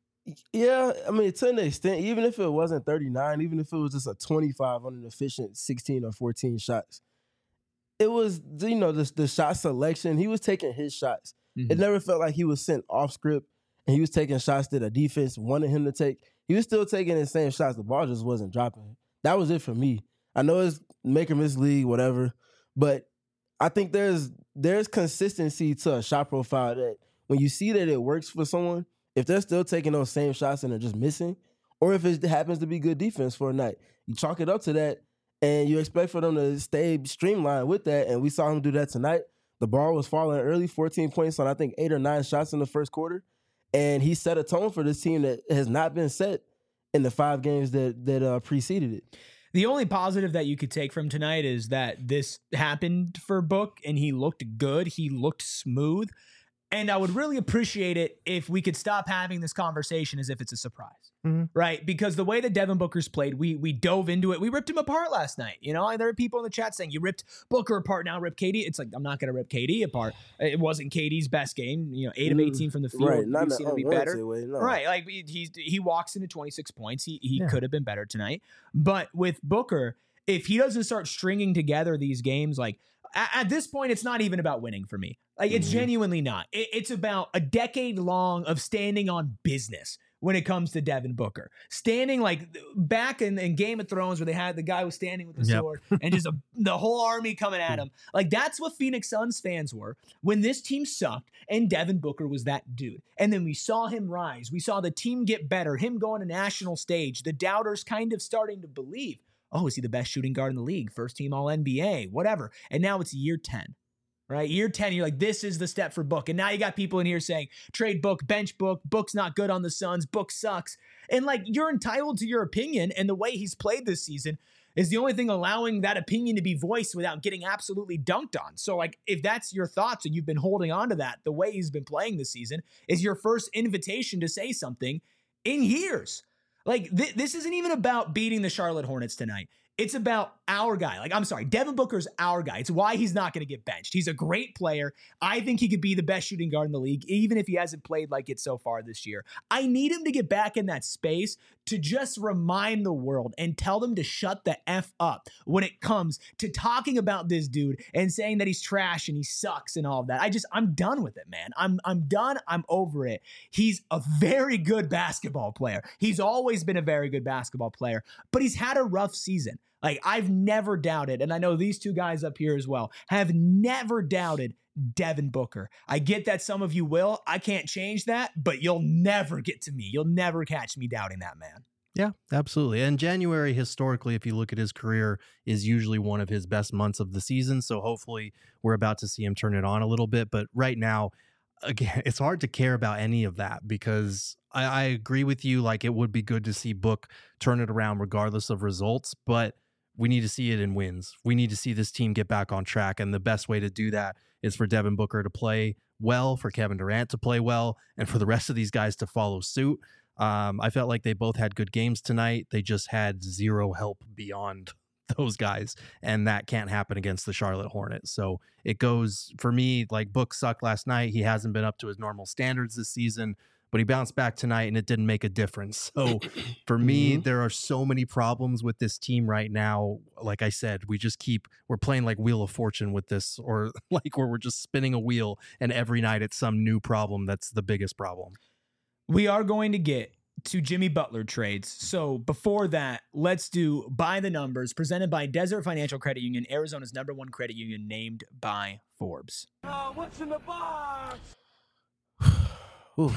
Yeah, I mean, to an extent, even if it wasn't thirty-nine, even if it was just a twenty-five on an efficient sixteen or fourteen shots, it was, you know, the, the shot selection. He was taking his shots. Mm-hmm. It never felt like he was sent off script and he was taking shots that the defense wanted him to take. He was still taking the same shots. The ball just wasn't dropping. That was it for me. I know it's make or miss league, whatever, but I think there's there's consistency to a shot profile that when you see that it works for someone, if they're still taking those same shots and they're just missing, or if it happens to be good defense for a night, you chalk it up to that, And you expect for them to stay streamlined with that. And we saw him do that tonight. The ball was falling early, fourteen points on I think eight or nine shots in the first quarter. And he set a tone for this team that has not been set in the five games that that uh, preceded it. The only positive that you could take from tonight is that this happened for Book and he looked good. He looked smooth. And I would really appreciate it if we could stop having this conversation as if it's a surprise, mm-hmm. right? Because the way that Devin Booker's played, we we dove into it. We ripped him apart last night. You know, and there are people in the chat saying, you ripped Booker apart, now rip K D. It's like, I'm not going to rip K D apart. It wasn't K D's best game. You know, eight of eighteen from the field. Right, not We've seen him be better. Way, no. Right, like he, he walks into twenty-six points. He, he yeah. could have been better tonight. But with Booker, if he doesn't start stringing together these games, like, at this point, it's not even about winning for me. Like, it's mm-hmm. genuinely not. It, it's about a decade long of standing on business when it comes to Devin Booker. Standing like back in, in Game of Thrones where they had the guy who was standing with the yep. sword and just a, the whole army coming at him. Like, that's what Phoenix Suns fans were when this team sucked and Devin Booker was that dude. And then we saw him rise. We saw the team get better, him go on a national stage, the doubters kind of starting to believe. Oh, is he the best shooting guard in the league? First team all N B A, whatever. And now it's year ten, right? Year ten, you're like, this is the step for Book. And now you got people in here saying, trade Book, bench Book, Book's not good on the Suns, Book sucks. And like, you're entitled to your opinion. And the way he's played this season is the only thing allowing that opinion to be voiced without getting absolutely dunked on. So like, if that's your thoughts and you've been holding on to that, the way he's been playing this season is your first invitation to say something in years. Like, th- this isn't even about beating the Charlotte Hornets tonight. It's about our guy. Like, I'm sorry, Devin Booker's our guy. It's why he's not going to get benched. He's a great player. I think he could be the best shooting guard in the league, even if he hasn't played like it so far this year. I need him to get back in that space to just remind the world and tell them to shut the F up when it comes to talking about this dude and saying that he's trash and he sucks and all of that. I just, I'm done with it, man. I'm, I'm done. I'm over it. He's a very good basketball player. He's always been a very good basketball player, but he's had a rough season. Like, I've never doubted, and I know these two guys up here as well, have never doubted Devin Booker. I get that some of you will. I can't change that, but you'll never get to me. You'll never catch me doubting that man. Yeah, absolutely. And January, historically, if you look at his career, is usually one of his best months of the season. So hopefully we're about to see him turn it on a little bit. But right now, again, it's hard to care about any of that because I, I agree with you. Like, it would be good to see Book turn it around regardless of results, but we need to see it in wins. We need to see this team get back on track. And the best way to do that is for Devin Booker to play well, for Kevin Durant to play well, and for the rest of these guys to follow suit. Um, I felt like they both had good games tonight. They just had zero help beyond those guys, and that can't happen against the Charlotte Hornets. So it goes, for me, like, Book sucked last night. He hasn't been up to his normal standards this season, but he bounced back tonight and it didn't make a difference. So for me, mm-hmm. there are so many problems with this team right now. Like I said, we just keep, we're playing like Wheel of Fortune with this, or like where we're just spinning a wheel and every night it's some new problem that's the biggest problem. We are going to get to Jimmy Butler trades. So before that, let's do By the Numbers, presented by Desert Financial Credit Union, Arizona's number one credit union, named by Forbes. Uh, what's in the box? Ooh.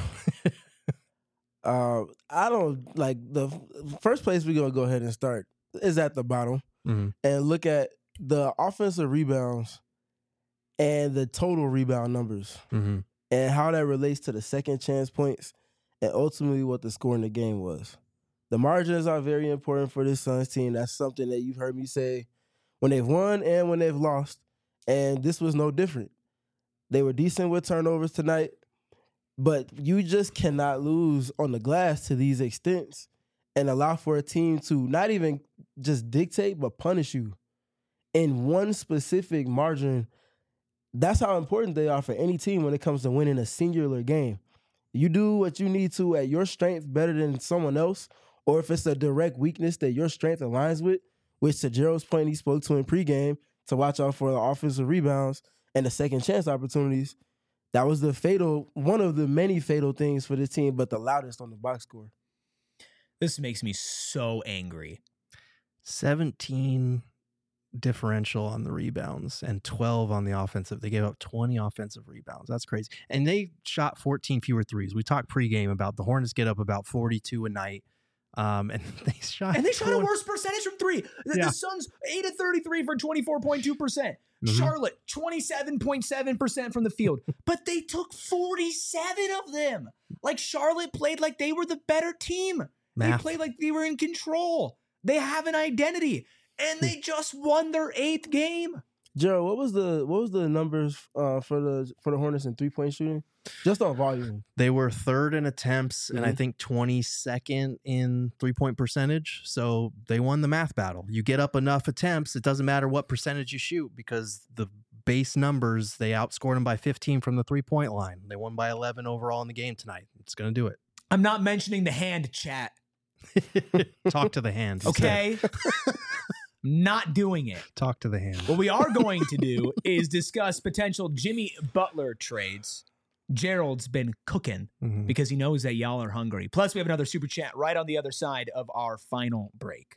uh, I don't like the first place we're gonna go ahead and start is at the bottom mm-hmm. and look at the offensive rebounds and the total rebound numbers mm-hmm. and how that relates to the second chance points and ultimately what the score in the game was. The margins are very important for this Suns team. That's something that you've heard me say when they've won and when they've lost, and this was no different. They were decent with turnovers tonight. But you just cannot lose on the glass to these extents and allow for a team to not even just dictate, but punish you in one specific margin. That's how important they are for any team when it comes to winning a singular game. You do what you need to at your strength better than someone else, or if it's a direct weakness that your strength aligns with, which to Gerald's point he spoke to in pregame, to watch out for the offensive rebounds and the second chance opportunities. That was the fatal, one of the many fatal things for this team, but the loudest on the box score. This makes me so angry. seventeen differential on the rebounds and twelve on the offensive. They gave up twenty offensive rebounds. That's crazy. And they shot fourteen fewer threes. We talked pregame about the Hornets get up about forty-two a night. Um, and they shot And they shot a twenty worse percentage from three. The, Yeah. the Suns, eight of thirty-three for twenty-four point two percent. Mhm. Charlotte, twenty-seven point seven percent from the field. But they took forty-seven of them. Like Charlotte played like they were the better team. They Math. played like they were in control. They have an identity. And they just won their eighth game. Gerald, what was the what was the numbers uh, for the for the Hornets in three point shooting? Just on volume. They were third in attempts and I Mhm. think twenty-second in three-point percentage. So they won the math battle. You get up enough attempts, it doesn't matter what percentage you shoot because the base numbers, they outscored them by fifteen from the three-point line. They won by eleven overall in the game tonight. It's going to do it. I'm not mentioning the hand chat. Talk to the hand. instead. Okay? Not doing it. Talk to the hand. What we are going to do is discuss potential Jimmy Butler trades. Gerald's been cooking Mhm. because he knows that y'all are hungry. Plus, we have another super chat right on the other side of our final break.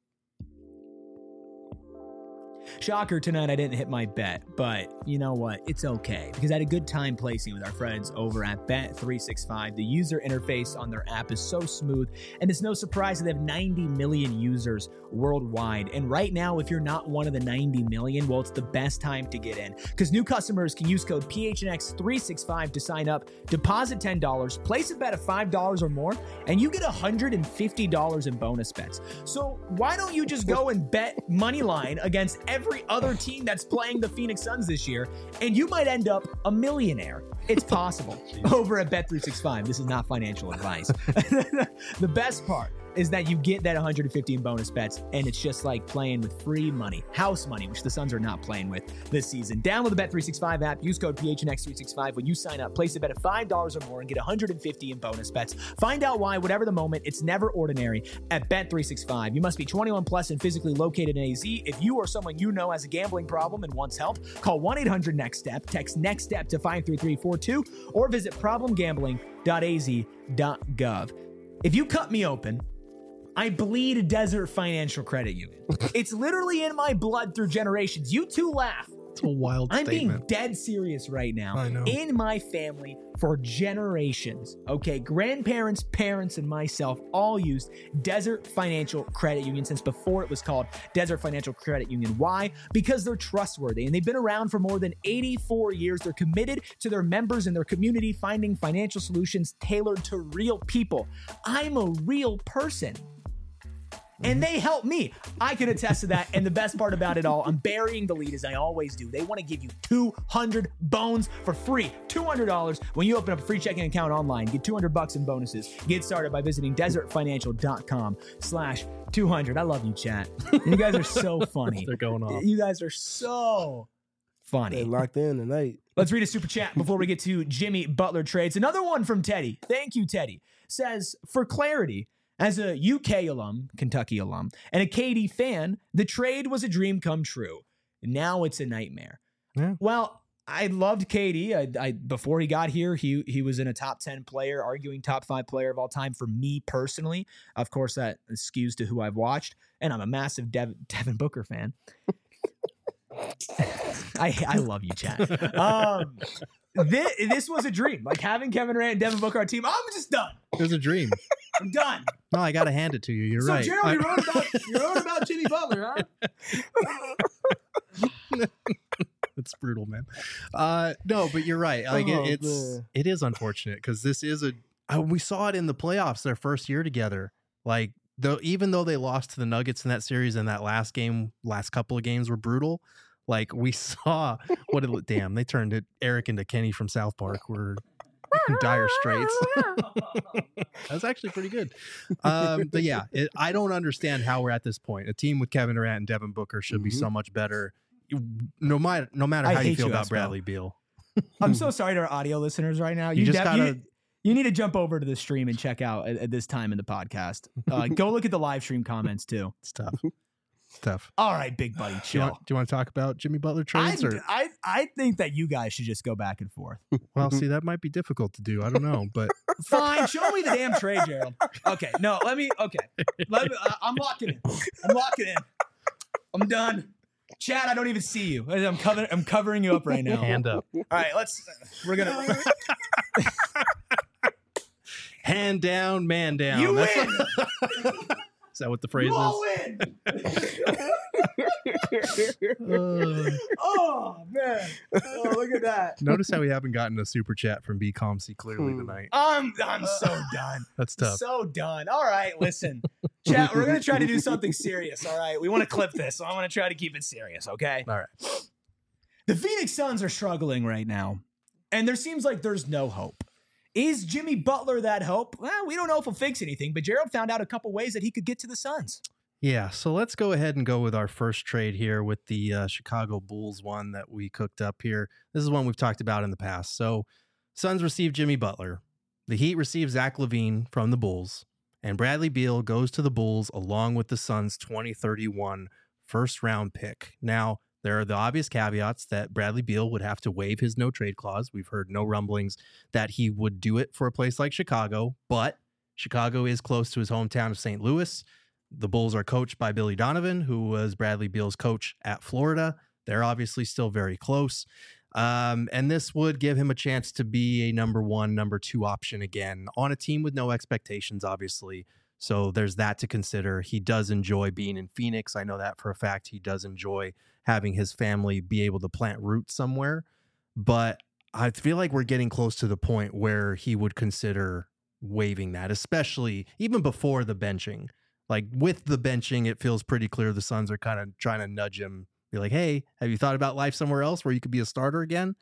Shocker, tonight I didn't hit my bet, but you know what? It's okay because I had a good time placing with our friends over at Bet three sixty-five. The user interface on their app is so smooth, and it's no surprise that they have ninety million users worldwide. And right now, if you're not one of the ninety million, well, it's the best time to get in because new customers can use code P H N X three sixty-five to sign up, deposit ten dollars, place a bet of five dollars or more, and you get one hundred fifty dollars in bonus bets. So why don't you just go and bet money line against every other team that's playing the Phoenix Suns this year, and you might end up a millionaire. It's possible. Over at Bet three sixty-five. This is not financial advice. The best part is that you get that one hundred fifty in bonus bets, and it's just like playing with free money, house money, which the Suns are not playing with this season. Download the Bet three sixty-five app, use code P H N X three sixty-five when you sign up, place a bet of five dollars or more and get one hundred fifty in bonus bets. Find out why, whatever the moment, it's never ordinary at Bet three sixty-five. You must be twenty-one plus and physically located in A Z. If you or someone you know has a gambling problem and wants help, call one eight hundred next step, text NEXTSTEP to five three three four two, or visit problem gambling dot a z dot gov. If you cut me open, I bleed Desert Financial Credit Union. It's literally in my blood through generations. You two laugh. It's a wild I'm statement. being dead serious right now. I know. In my family for generations, okay, grandparents, parents, and myself all used Desert Financial Credit Union since before it was called Desert Financial Credit Union. Why? Because they're trustworthy and they've been around for more than eighty-four years. They're committed to their members and their community, finding financial solutions tailored to real people. I'm a real person. And they help me. I can attest to that. And the best part about it all, I'm burying the lead as I always do. They want to give you two hundred bones for free. two hundred dollars when you open up a free checking account online. Get two hundred bucks in bonuses. Get started by visiting desert financial dot com slash two hundred. I love you, chat. You guys are so funny. They're going off. You guys are so funny. They locked in tonight. Let's read a super chat before we get to Jimmy Butler trades. Another one from Teddy. Thank you, Teddy. Says, for clarity, as a U K alum, Kentucky alum, and a K D fan, the trade was a dream come true. Now it's a nightmare. Yeah. Well, I loved K D. I, I, before he got here, he he was in a top ten player, arguing top five player of all time for me personally. Of course, that skews to who I've watched, and I'm a massive Dev, Devin Booker fan. I I love you, chat. Um, this, this was a dream. Like having Kevin Durant and Devin Booker on our team, I'm just done. It was a dream. I'm done. No, I got to hand it to you. You're so, right. Gerald, I- you wrote about you wrote about Jimmy Butler, huh? It's brutal, man. Uh, no, but you're right. Like Oh, it, it's man. it is unfortunate because this is a uh, we saw it in the playoffs their first year together. Like though, even though they lost to the Nuggets in that series and that last game, last couple of games were brutal. Like we saw what it. Damn, they turned it Eric into Kenny from South Park. We're in dire straits. That's actually pretty good. Um, but yeah, it, I don't understand how we're at this point. A team with Kevin Durant and Devin Booker should be Mhm. so much better. No matter no matter I how you hate feel you, about Espo. Bradley Beal. I'm so sorry to our audio listeners right now. You just def- gotta- you, you need to jump over to the stream and check out at, at this time in the podcast. Uh, go look at the live stream comments too. It's tough. It's tough. All right, big buddy, Do you, chill. want, do you want to talk about Jimmy Butler I, trades? Or I I think that you guys should just go back and forth. well, see, that might be difficult to do. I don't know, but Fine, show me the damn trade, Gerald. Okay, no, let me. Okay, let me. I, I'm locking in. I'm locking in. I'm done. Chad, I don't even see you. I'm covering. I'm covering you up right now. hand up. All right, let's. We're gonna. hand down, man down. You That's win. What, is that what the phrase You all is? win. Uh, Oh man! Oh, look at that. notice how we haven't gotten a super chat from B Com C clearly Hmm. tonight. I'm I'm so done. That's tough. So done. All right, listen, chat. We're gonna try to do something serious. All right, we want to clip this, so I'm gonna try to keep it serious. Okay. All right. The Phoenix Suns are struggling right now, and there seems like there's no hope. Is Jimmy Butler that hope? Well, we don't know if he'll fix anything, but Gerald found out a couple ways that he could get to the Suns. Yeah, so let's go ahead and go with our first trade here with the uh, Chicago Bulls one that we cooked up here. This is one we've talked about in the past. So Suns receive Jimmy Butler. The Heat receive Zach LaVine from the Bulls. And Bradley Beal goes to the Bulls along with the Suns' twenty thirty-one first round pick. Now, there are the obvious caveats that Bradley Beal would have to waive his no trade clause. We've heard no rumblings that he would do it for a place like Chicago, but Chicago is close to his hometown of Saint Louis. The Bulls are coached by Billy Donovan, who was Bradley Beal's coach at Florida. They're obviously still very close. Um, and this would give him a chance to be a number one, number two option again on a team with no expectations, obviously. So there's that to consider. He does enjoy being in Phoenix. I know that for a fact. He does enjoy having his family be able to plant roots somewhere. But I feel like we're getting close to the point where he would consider waiving that, especially even before the benching. Like with the benching, it feels pretty clear the Suns are kind of trying to nudge him, be like, hey, have you thought about life somewhere else where you could be a starter again?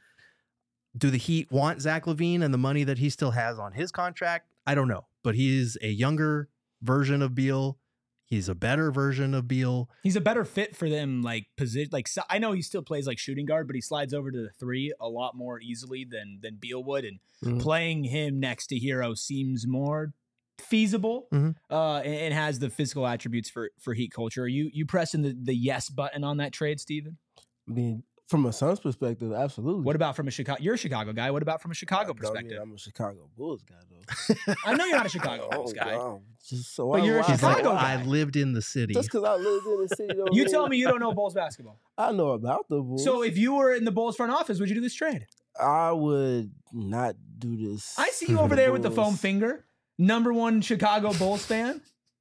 Do the Heat want Zach LaVine and the money that he still has on his contract? I don't know, but he's a younger version of Beal. He's a better version of Beal. He's a better fit for them, like position. Like so- I know he still plays like shooting guard, but he slides over to the three a lot more easily than than Beal would, and Mhm. playing him next to Hero seems more feasible, Mhm. uh, and, and has the physical attributes for for Heat culture. Are you you pressing the the yes button on that trade, Steven? I mean, from a Suns perspective, absolutely. What about from a Chicago? You're a Chicago guy. What about from a Chicago I don't mean perspective? I'm a Chicago Bulls guy, though. I know you're not a Chicago Oh, Bulls guy. God. Just so But I- you're a why- He's like, Chicago why- guy. I lived in the city. Just because I lived in the city, don't You mean- tell me you don't know Bulls basketball. I know about the Bulls. So if you were in the Bulls front office, would you do this trade? I would not do this. I see you over there with the foam Bulls. finger. Number one Chicago Bulls fan.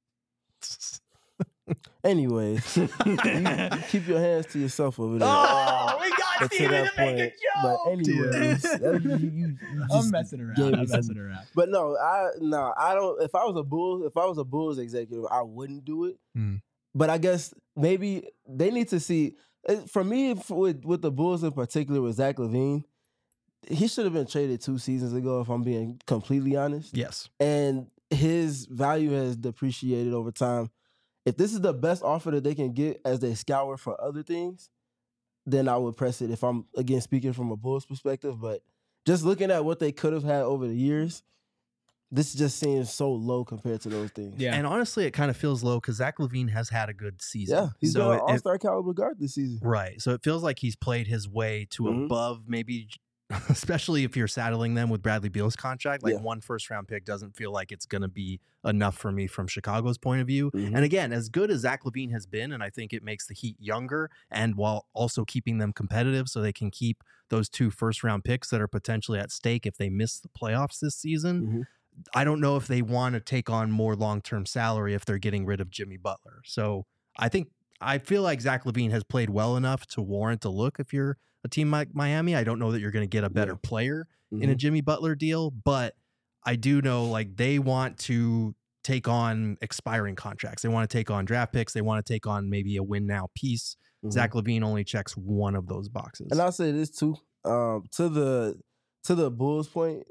Anyways, keep your hands to yourself over there. Oh, we got But to Steven to that make a point- joke. But anyways, that- you, you, you I'm just messing around. gave I'm me some- messing around. But no, I no, I don't. If I was a Bulls, if I was a Bulls executive, I wouldn't do it. Hmm. But I guess maybe they need to see. eh, For me, f- with with the Bulls in particular, with Zach LaVine, he should have been traded two seasons ago. If I'm being completely honest, Yes. and his value has depreciated over time. If this is the best offer that they can get as they scour for other things, then I would press it. If I'm again speaking from a Bulls perspective, but just looking at what they could have had over the years, this just seems so low compared to those things. Yeah. And honestly, it kind of feels low because Zach LaVine has had a good season. yeah, he's so been an it- All it- Star caliber guard this season. Right. So it feels like he's played his way to Mhm. above maybe, especially if you're saddling them with Bradley Beal's contract. Like Yeah. one first round pick doesn't feel like it's going to be enough for me from Chicago's point of view. Mhm. And again, as good as Zach LaVine has been, and I think it makes the Heat younger and while also keeping them competitive so they can keep those two first round picks that are potentially at stake if they miss the playoffs this season. Mhm. I don't know if they want to take on more long-term salary if they're getting rid of Jimmy Butler. So I think I feel like Zach LaVine has played well enough to warrant a look if you're a team like Miami. I don't know that you're going to get a better Yeah. player in a Mhm. Jimmy Butler deal, but I do know like they want to take on expiring contracts. They want to take on draft picks. They want to take on maybe a win now piece. Mhm. Zach LaVine only checks one of those boxes. And I'll say this too. Um, to the to the Bulls point,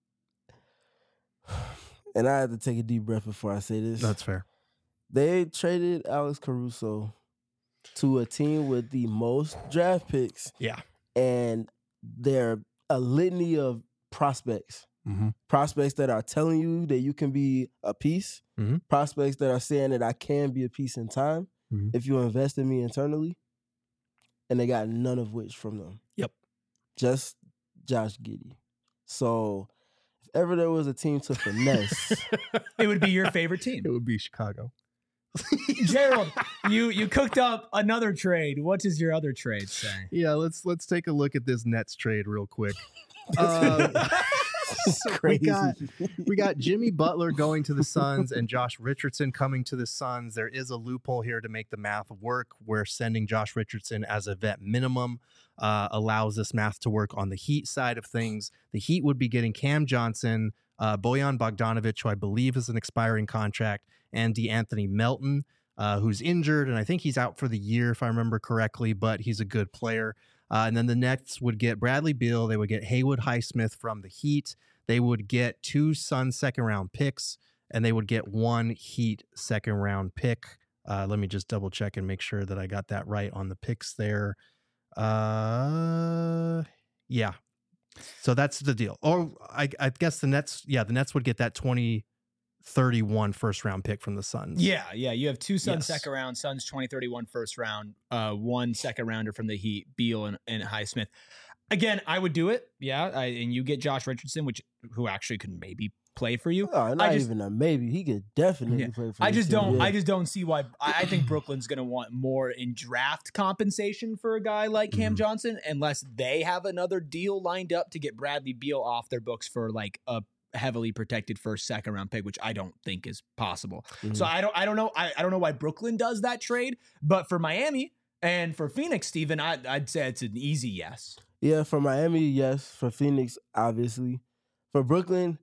and I had to take a deep breath before I say this. That's fair. They traded Alex Caruso to a team with the most draft picks, Yeah. and they're a litany of prospects. Mm-hmm. Prospects that are telling you that you can be a piece. Mhm. Prospects that are saying that I can be a piece in time Mhm. if you invest in me internally. And they got none of which from them. Yep. Just Josh Giddey. So if ever there was a team to finesse, It would be your favorite team. It would be Chicago. Gerald, you you cooked up another trade. What does your other trade say? Yeah, let's let's take a look at this Nets trade real quick. Um, So we got we got Jimmy Butler going to the Suns and Josh Richardson coming to the Suns. There is a loophole here to make the math work, where sending Josh Richardson as a vet minimum uh, allows this math to work on the Heat side of things. The Heat would be getting Cam Johnson, uh, Bojan Bogdanovic, who I believe is an expiring contract, and DeAnthony Melton, uh, who's injured, and I think he's out for the year if I remember correctly, but he's a good player. Uh, and then the Nets would get Bradley Beal. They would get Haywood Highsmith from the Heat. They would get two Suns second round picks, and they would get one Heat second round pick. Uh, let me just double check and make sure that I got that right on the picks there. Uh, yeah. So that's the deal. Or I, I guess the Nets, yeah, the Nets would get that twenty thirty-one first round pick from the Suns. Yeah, yeah. You have two Suns Yes. second round, Suns twenty thirty-one first round, uh, one second rounder from the Heat, Beal and, and Highsmith. Again, I would do it. Yeah, I, and you get Josh Richardson, which who actually could maybe play for you. Oh, not I just- even a maybe. He could definitely Yeah. play for I this just team, don't. yeah. I just don't see why. I, I think Brooklyn's going to want more in draft compensation for a guy like Cam Mhm. Johnson, unless they have another deal lined up to get Bradley Beal off their books for like a heavily protected first, second round pick, which I don't think is possible. Mhm. So I don't. I don't know. I, I don't know why Brooklyn does that trade, but for Miami and for Phoenix, Steven, I, I'd say it's an easy yes. Yeah, for Miami, yes. For Phoenix, obviously. For Brooklyn,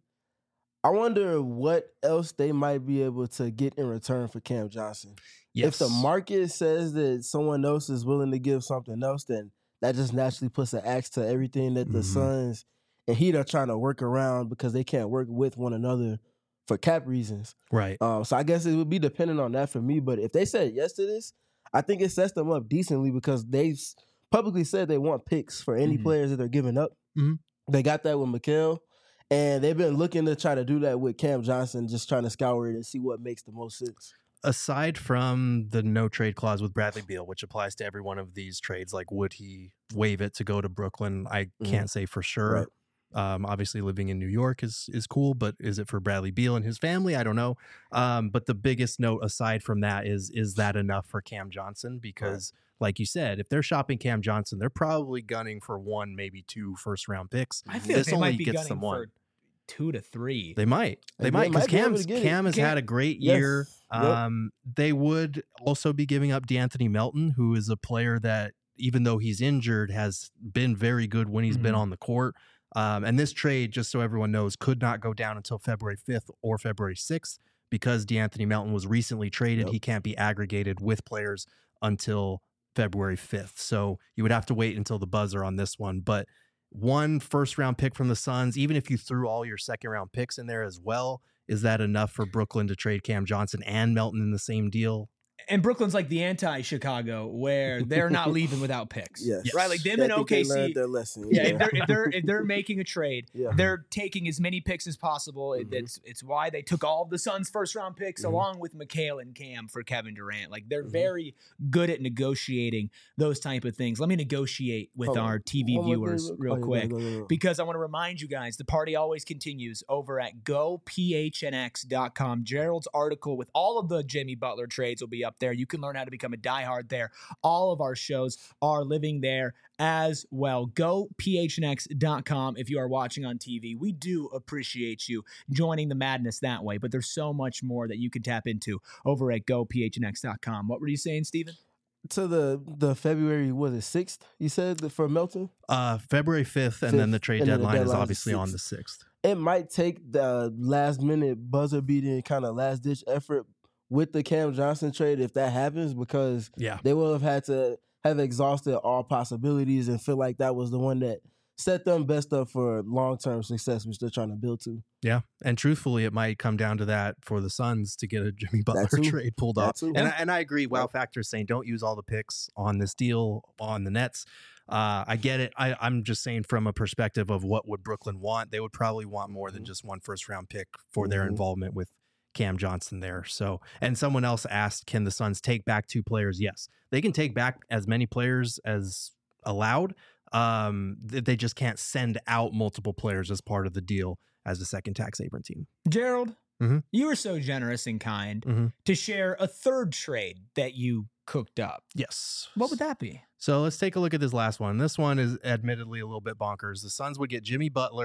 I wonder what else they might be able to get in return for Cam Johnson. Yes. If the market says that someone else is willing to give something else, then that just naturally puts an axe to everything that the Mhm. Suns and Heat are trying to work around because they can't work with one another for cap reasons. Right. Um, so I guess it would be dependent on that for me. But if they said yes to this, I think it sets them up decently because they've s- publicly said they want picks for any Mhm. players that they're giving up. Mhm. They got that with Mikal, and they've been looking to try to do that with Cam Johnson, just trying to scour it and see what makes the most sense. Aside from the no trade clause with Bradley Beal, which applies to every one of these trades, like would he waive it to go to Brooklyn? I Mhm. can't say for sure. Right. Um, obviously, living in New York is is cool, but is it for Bradley Beal and his family? I don't know. Um, but the biggest note aside from that is is that enough for Cam Johnson? Because, like you said, if they're shopping Cam Johnson, they're probably gunning for one, maybe two first round picks. I feel This like they only might be gets gunning them one. for two to three. They might. They They might because might be able Cam's to get it. Cam has Cam- had a great Yes. year. Yep. Um, they would also be giving up DeAnthony Melton, who is a player that, even though he's injured, has been very good when he's been Mhm. on the court. Um, and this trade, just so everyone knows, could not go down until February fifth or February sixth because DeAnthony Melton was recently traded. Yep. He can't be aggregated with players until February fifth. So you would have to wait until the buzzer on this one. But one first round pick from the Suns, even if you threw all your second round picks in there as well, is that enough for Brooklyn to trade Cam Johnson and Melton in the same deal? And Brooklyn's like the anti-Chicago, where they're not leaving without picks. Yes. Right? Like them I and think they O K C. learned their lesson. Yeah, if they're, if they're if they're making a trade, Yeah. they're taking as many picks as possible. It- Mhm. It's it's why they took all of the Suns' first round picks Mhm. along with Mikal and Cam for Kevin Durant. Like they're Mhm. very good at negotiating those type of things. Let me negotiate with Hold on. our T V One more thing viewers real- real oh, yeah, quick. go, go, go, go. Because I want to remind you guys, the party always continues over at go P H N X dot com. Gerald's article with all of the Jimmy Butler trades will be up there. You can learn how to become a diehard there. All of our shows are living there as well. go P H N X dot com if you are watching on T V. We do appreciate you joining the madness that way, but there's so much more that you can tap into over at go P H N X dot com. What were you saying, Steven? To the the February, was it sixth? You said the- for Melton? Uh, February fifth, and then the Fifth, trade and then the deadline is deadline's the obviously on the sixth. sixth. It might take the last minute buzzer beating kind of last ditch effort with the Cam Johnson trade if that happens, because Yeah. they will have had to have exhausted all possibilities and feel like that was the one that set them best up for long term success, which they're trying to build to. Yeah. And truthfully, it might come down to that for the Suns to get a Jimmy Butler too. trade pulled That off. too. And, Yeah. I, and I agree. Wow Yeah. Factor is saying don't use all the picks on this deal on the Nets. Uh, I get it. I, I'm just saying from a perspective of what would Brooklyn want, they would probably want more than Mhm. just one first round pick for their Mhm. involvement with Cam Johnson there. So, and someone else asked, can the Suns take back two players? Yes, they can take back as many players as allowed. Um, th- they just can't send out multiple players as part of the deal as a second tax haven team. Gerald, Mhm. you were so generous and kind Mhm. to share a third trade that you cooked up. Yes. What would that be? So let's take a look at this last one. This one is admittedly a little bit bonkers. The Suns would get Jimmy Butler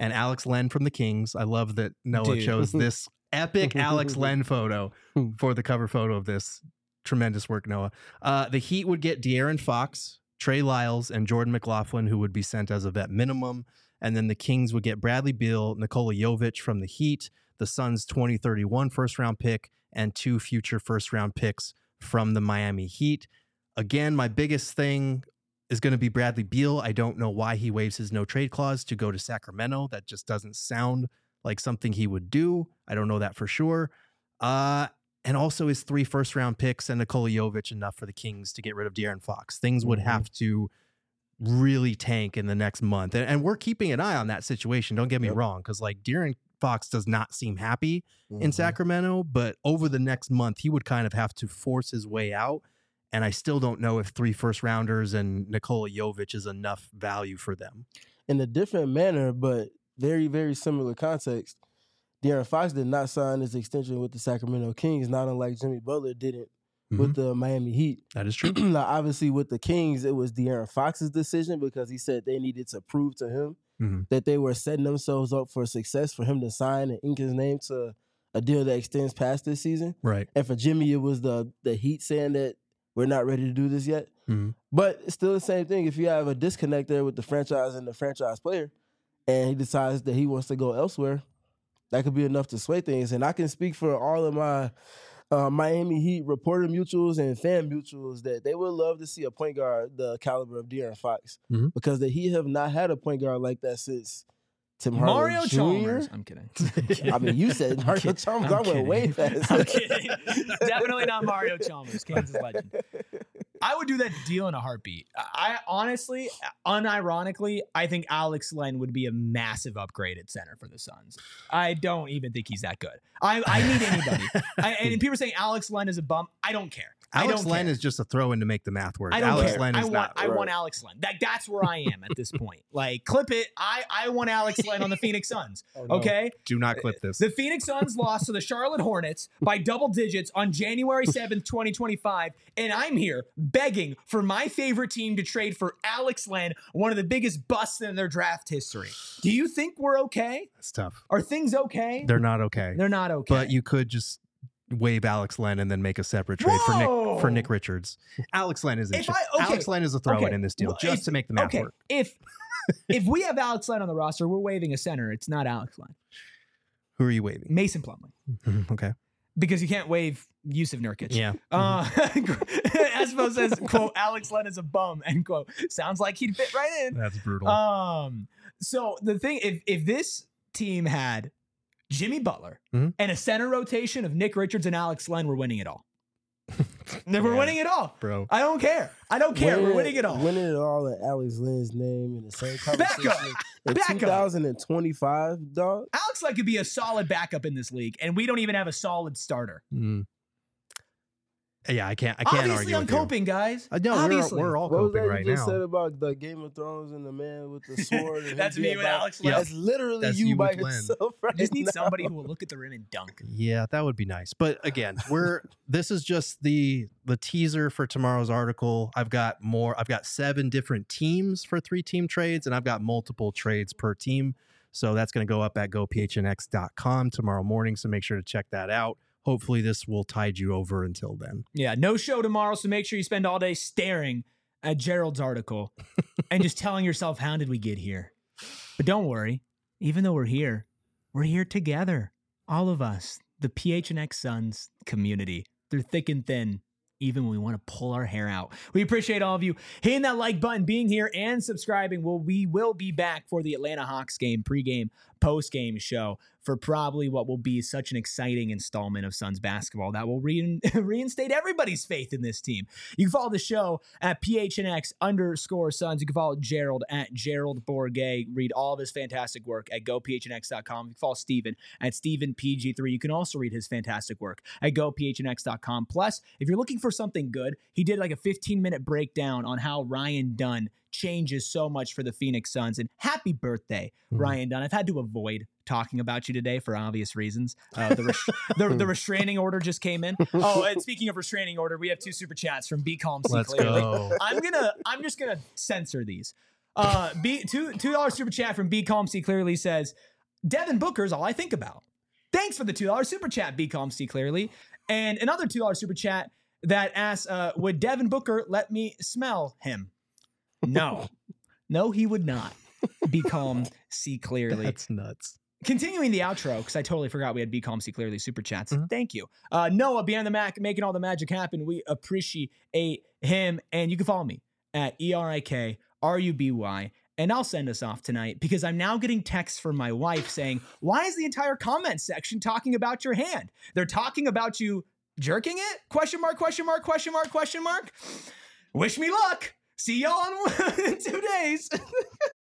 and Alex Len from the Kings. I love that Noah Dude. chose this epic Alex Len photo for the cover photo of this. Tremendous work, Noah. Uh, the Heat would get De'Aaron Fox, Trey Lyles, and Jordan McLaughlin, who would be sent as a vet minimum. And then the Kings would get Bradley Beal, Nikola Jovic from the Heat, the Suns' twenty thirty-one first-round pick, and two future first-round picks from the Miami Heat. Again, my biggest thing is going to be Bradley Beal. I don't know why he waives his no-trade clause to go to Sacramento. That just doesn't sound like something he would do. I don't know that for sure. Uh, and also his three first-round picks and Nikola Jovic enough for the Kings to get rid of De'Aaron Fox. Things would Mm-hmm. have to really tank in the next month. And, and we're keeping an eye on that situation. Don't get me Yep. wrong, because like De'Aaron Fox does not seem happy Mhm. in Sacramento, but over the next month, he would kind of have to force his way out. And I still don't know if three first rounders and Nikola Jovic is enough value for them. In a different manner, but very, very similar context. De'Aaron Fox did not sign his extension with the Sacramento Kings, not unlike Jimmy Butler didn't with the Miami Heat. That is true. Now, obviously, with the Kings, it was De'Aaron Fox's decision because he said they needed to prove to him Mhm. that they were setting themselves up for success for him to sign and ink his name to a deal that extends past this season. Right. And for Jimmy, it was the the Heat saying that we're not ready to do this yet. Mhm. But it's still the same thing. If you have a disconnect there with the franchise and the franchise player, and he decides that he wants to go elsewhere, that could be enough to sway things. And I can speak for all of my uh, Miami Heat reporter mutuals and fan mutuals that they would love to see a point guard the caliber of De'Aaron Fox Mhm. because the Heat have not had a point guard like that since Tim Mario Hardaway Chalmers. Junior I'm kidding. I mean, you said Mario kidding. Chalmers. I'm I went kidding. way fast. I'm kidding. Definitely not Mario Chalmers, Kansas legend. I would do that deal in a heartbeat. I honestly, unironically, I think Alex Len would be a massive upgrade at center for the Suns. I don't even think he's that good. I, I need anybody. I, and people are saying Alex Len is a bum. I don't care. I Alex don't Len care. is just a throw in to make the math work. I don't Alex care. Len I is want, not. I want right. Alex Len. That, that's where I am at this point. Like, clip it. I, I want Alex Len on the Phoenix Suns. Oh, no. Okay? Do not clip this. The Phoenix Suns lost to the Charlotte Hornets by double digits on January seventh, twenty twenty-five, and I'm here begging for my favorite team to trade for Alex Len, one of the biggest busts in their draft history. Do you think we're okay? It's tough. Are things okay? They're not okay. They're not okay. But you could just waive Alex Len and then make a separate trade for Whoa! Nick for Nick Richards. Alex Len is If I- okay. Alex Len is a throw in Okay. in this deal Well, just if- to make the math okay. work. If if we have Alex Len on the roster, we're waiving a center. It's not Alex Len. Who are you waiving? Mason Plumlee. Okay. Because you can't waive Yusuf Nurkic. Yeah. Uh, Espo says, quote, Alex Len is a bum, end quote. Sounds like he'd fit right in. That's brutal. Um, so the thing, if if this team had Jimmy Butler Mhm. and a center rotation of Nick Richards and Alex Len, we're winning it all. We're Yeah. winning it all. Bro. I don't care. I don't care. We're Winning- winning it all. Winning it all in Alex Lynn's name in the same Back conversation up. in Back up. two thousand twenty-five, dog. Alex Len could be a solid backup in this league, and we don't even have a solid starter. Mm. Yeah, I can't I can't Obviously, argue I'm with you. coping, guys. Uh, no, we're, Obviously. we're all What was coping that right you just now. said about the Game of Thrones and the man with the sword? and That's him me being with by- Alex Len. That's literally That's you, you by with Len. yourself right I just need now. somebody who will look at the rim and dunk. Yeah, that would be nice. But again, we're this is just the the teaser for tomorrow's article. I've got more. I've got seven different teams for three team trades, and I've got multiple trades per team. So that's going to go up at go p h n x dot com tomorrow morning. So make sure to check that out. Hopefully, this will tide you over until then. Yeah, no show tomorrow, so make sure you spend all day staring at Gerald's article and just telling yourself, how did we get here? But don't worry, even though we're here, we're here together. All of us, the P H N X Suns community. They're thick and thin, even when we want to pull our hair out. We appreciate all of you hitting that like button, being here, and subscribing. Well, we will be back for the Atlanta Hawks game, pregame, postgame show for probably what will be such an exciting installment of Suns basketball that will rein- reinstate everybody's faith in this team. You can follow the show at P H N X underscore Suns. You can follow Gerald at Gerald Bourget. Read all of his fantastic work at go p h n x dot com. You can follow Steven at Steven P G three. You can also read his fantastic work at go p h n x dot com. Plus, if you're looking for something good, he did like a fifteen minute breakdown on how Ryan Dunn changes so much for the Phoenix Suns. And happy birthday, Mhm. Ryan Dunn. I've had to avoid talking about you today for obvious reasons. Uh, the, res- the the restraining order just came in. Oh, and speaking of restraining order, we have two super chats from Be Calm, C Let's Clearly. go. I'm gonna I'm just gonna censor these. Uh, B two two dollar super chat from B Calm C Clearly says, Devin Booker's all I think about. Thanks for the two dollar super chat, B Calm C Clearly. And another two dollar super chat that asks, uh, would Devin Booker let me smell him? No. No, he would not. Be Calm C Clearly. That's nuts. Continuing the outro, because I totally forgot we had Be Calm C Clearly super chats. Mhm. Thank you. Uh, Noah, Beyond the Mac, making all the magic happen. We appreciate him. And you can follow me at E R I K R U B Y. And I'll send us off tonight because I'm now getting texts from my wife saying, why is the entire comment section talking about your hand? They're talking about you jerking it? Question mark, question mark, question mark, question mark. Wish me luck. See y'all in two days.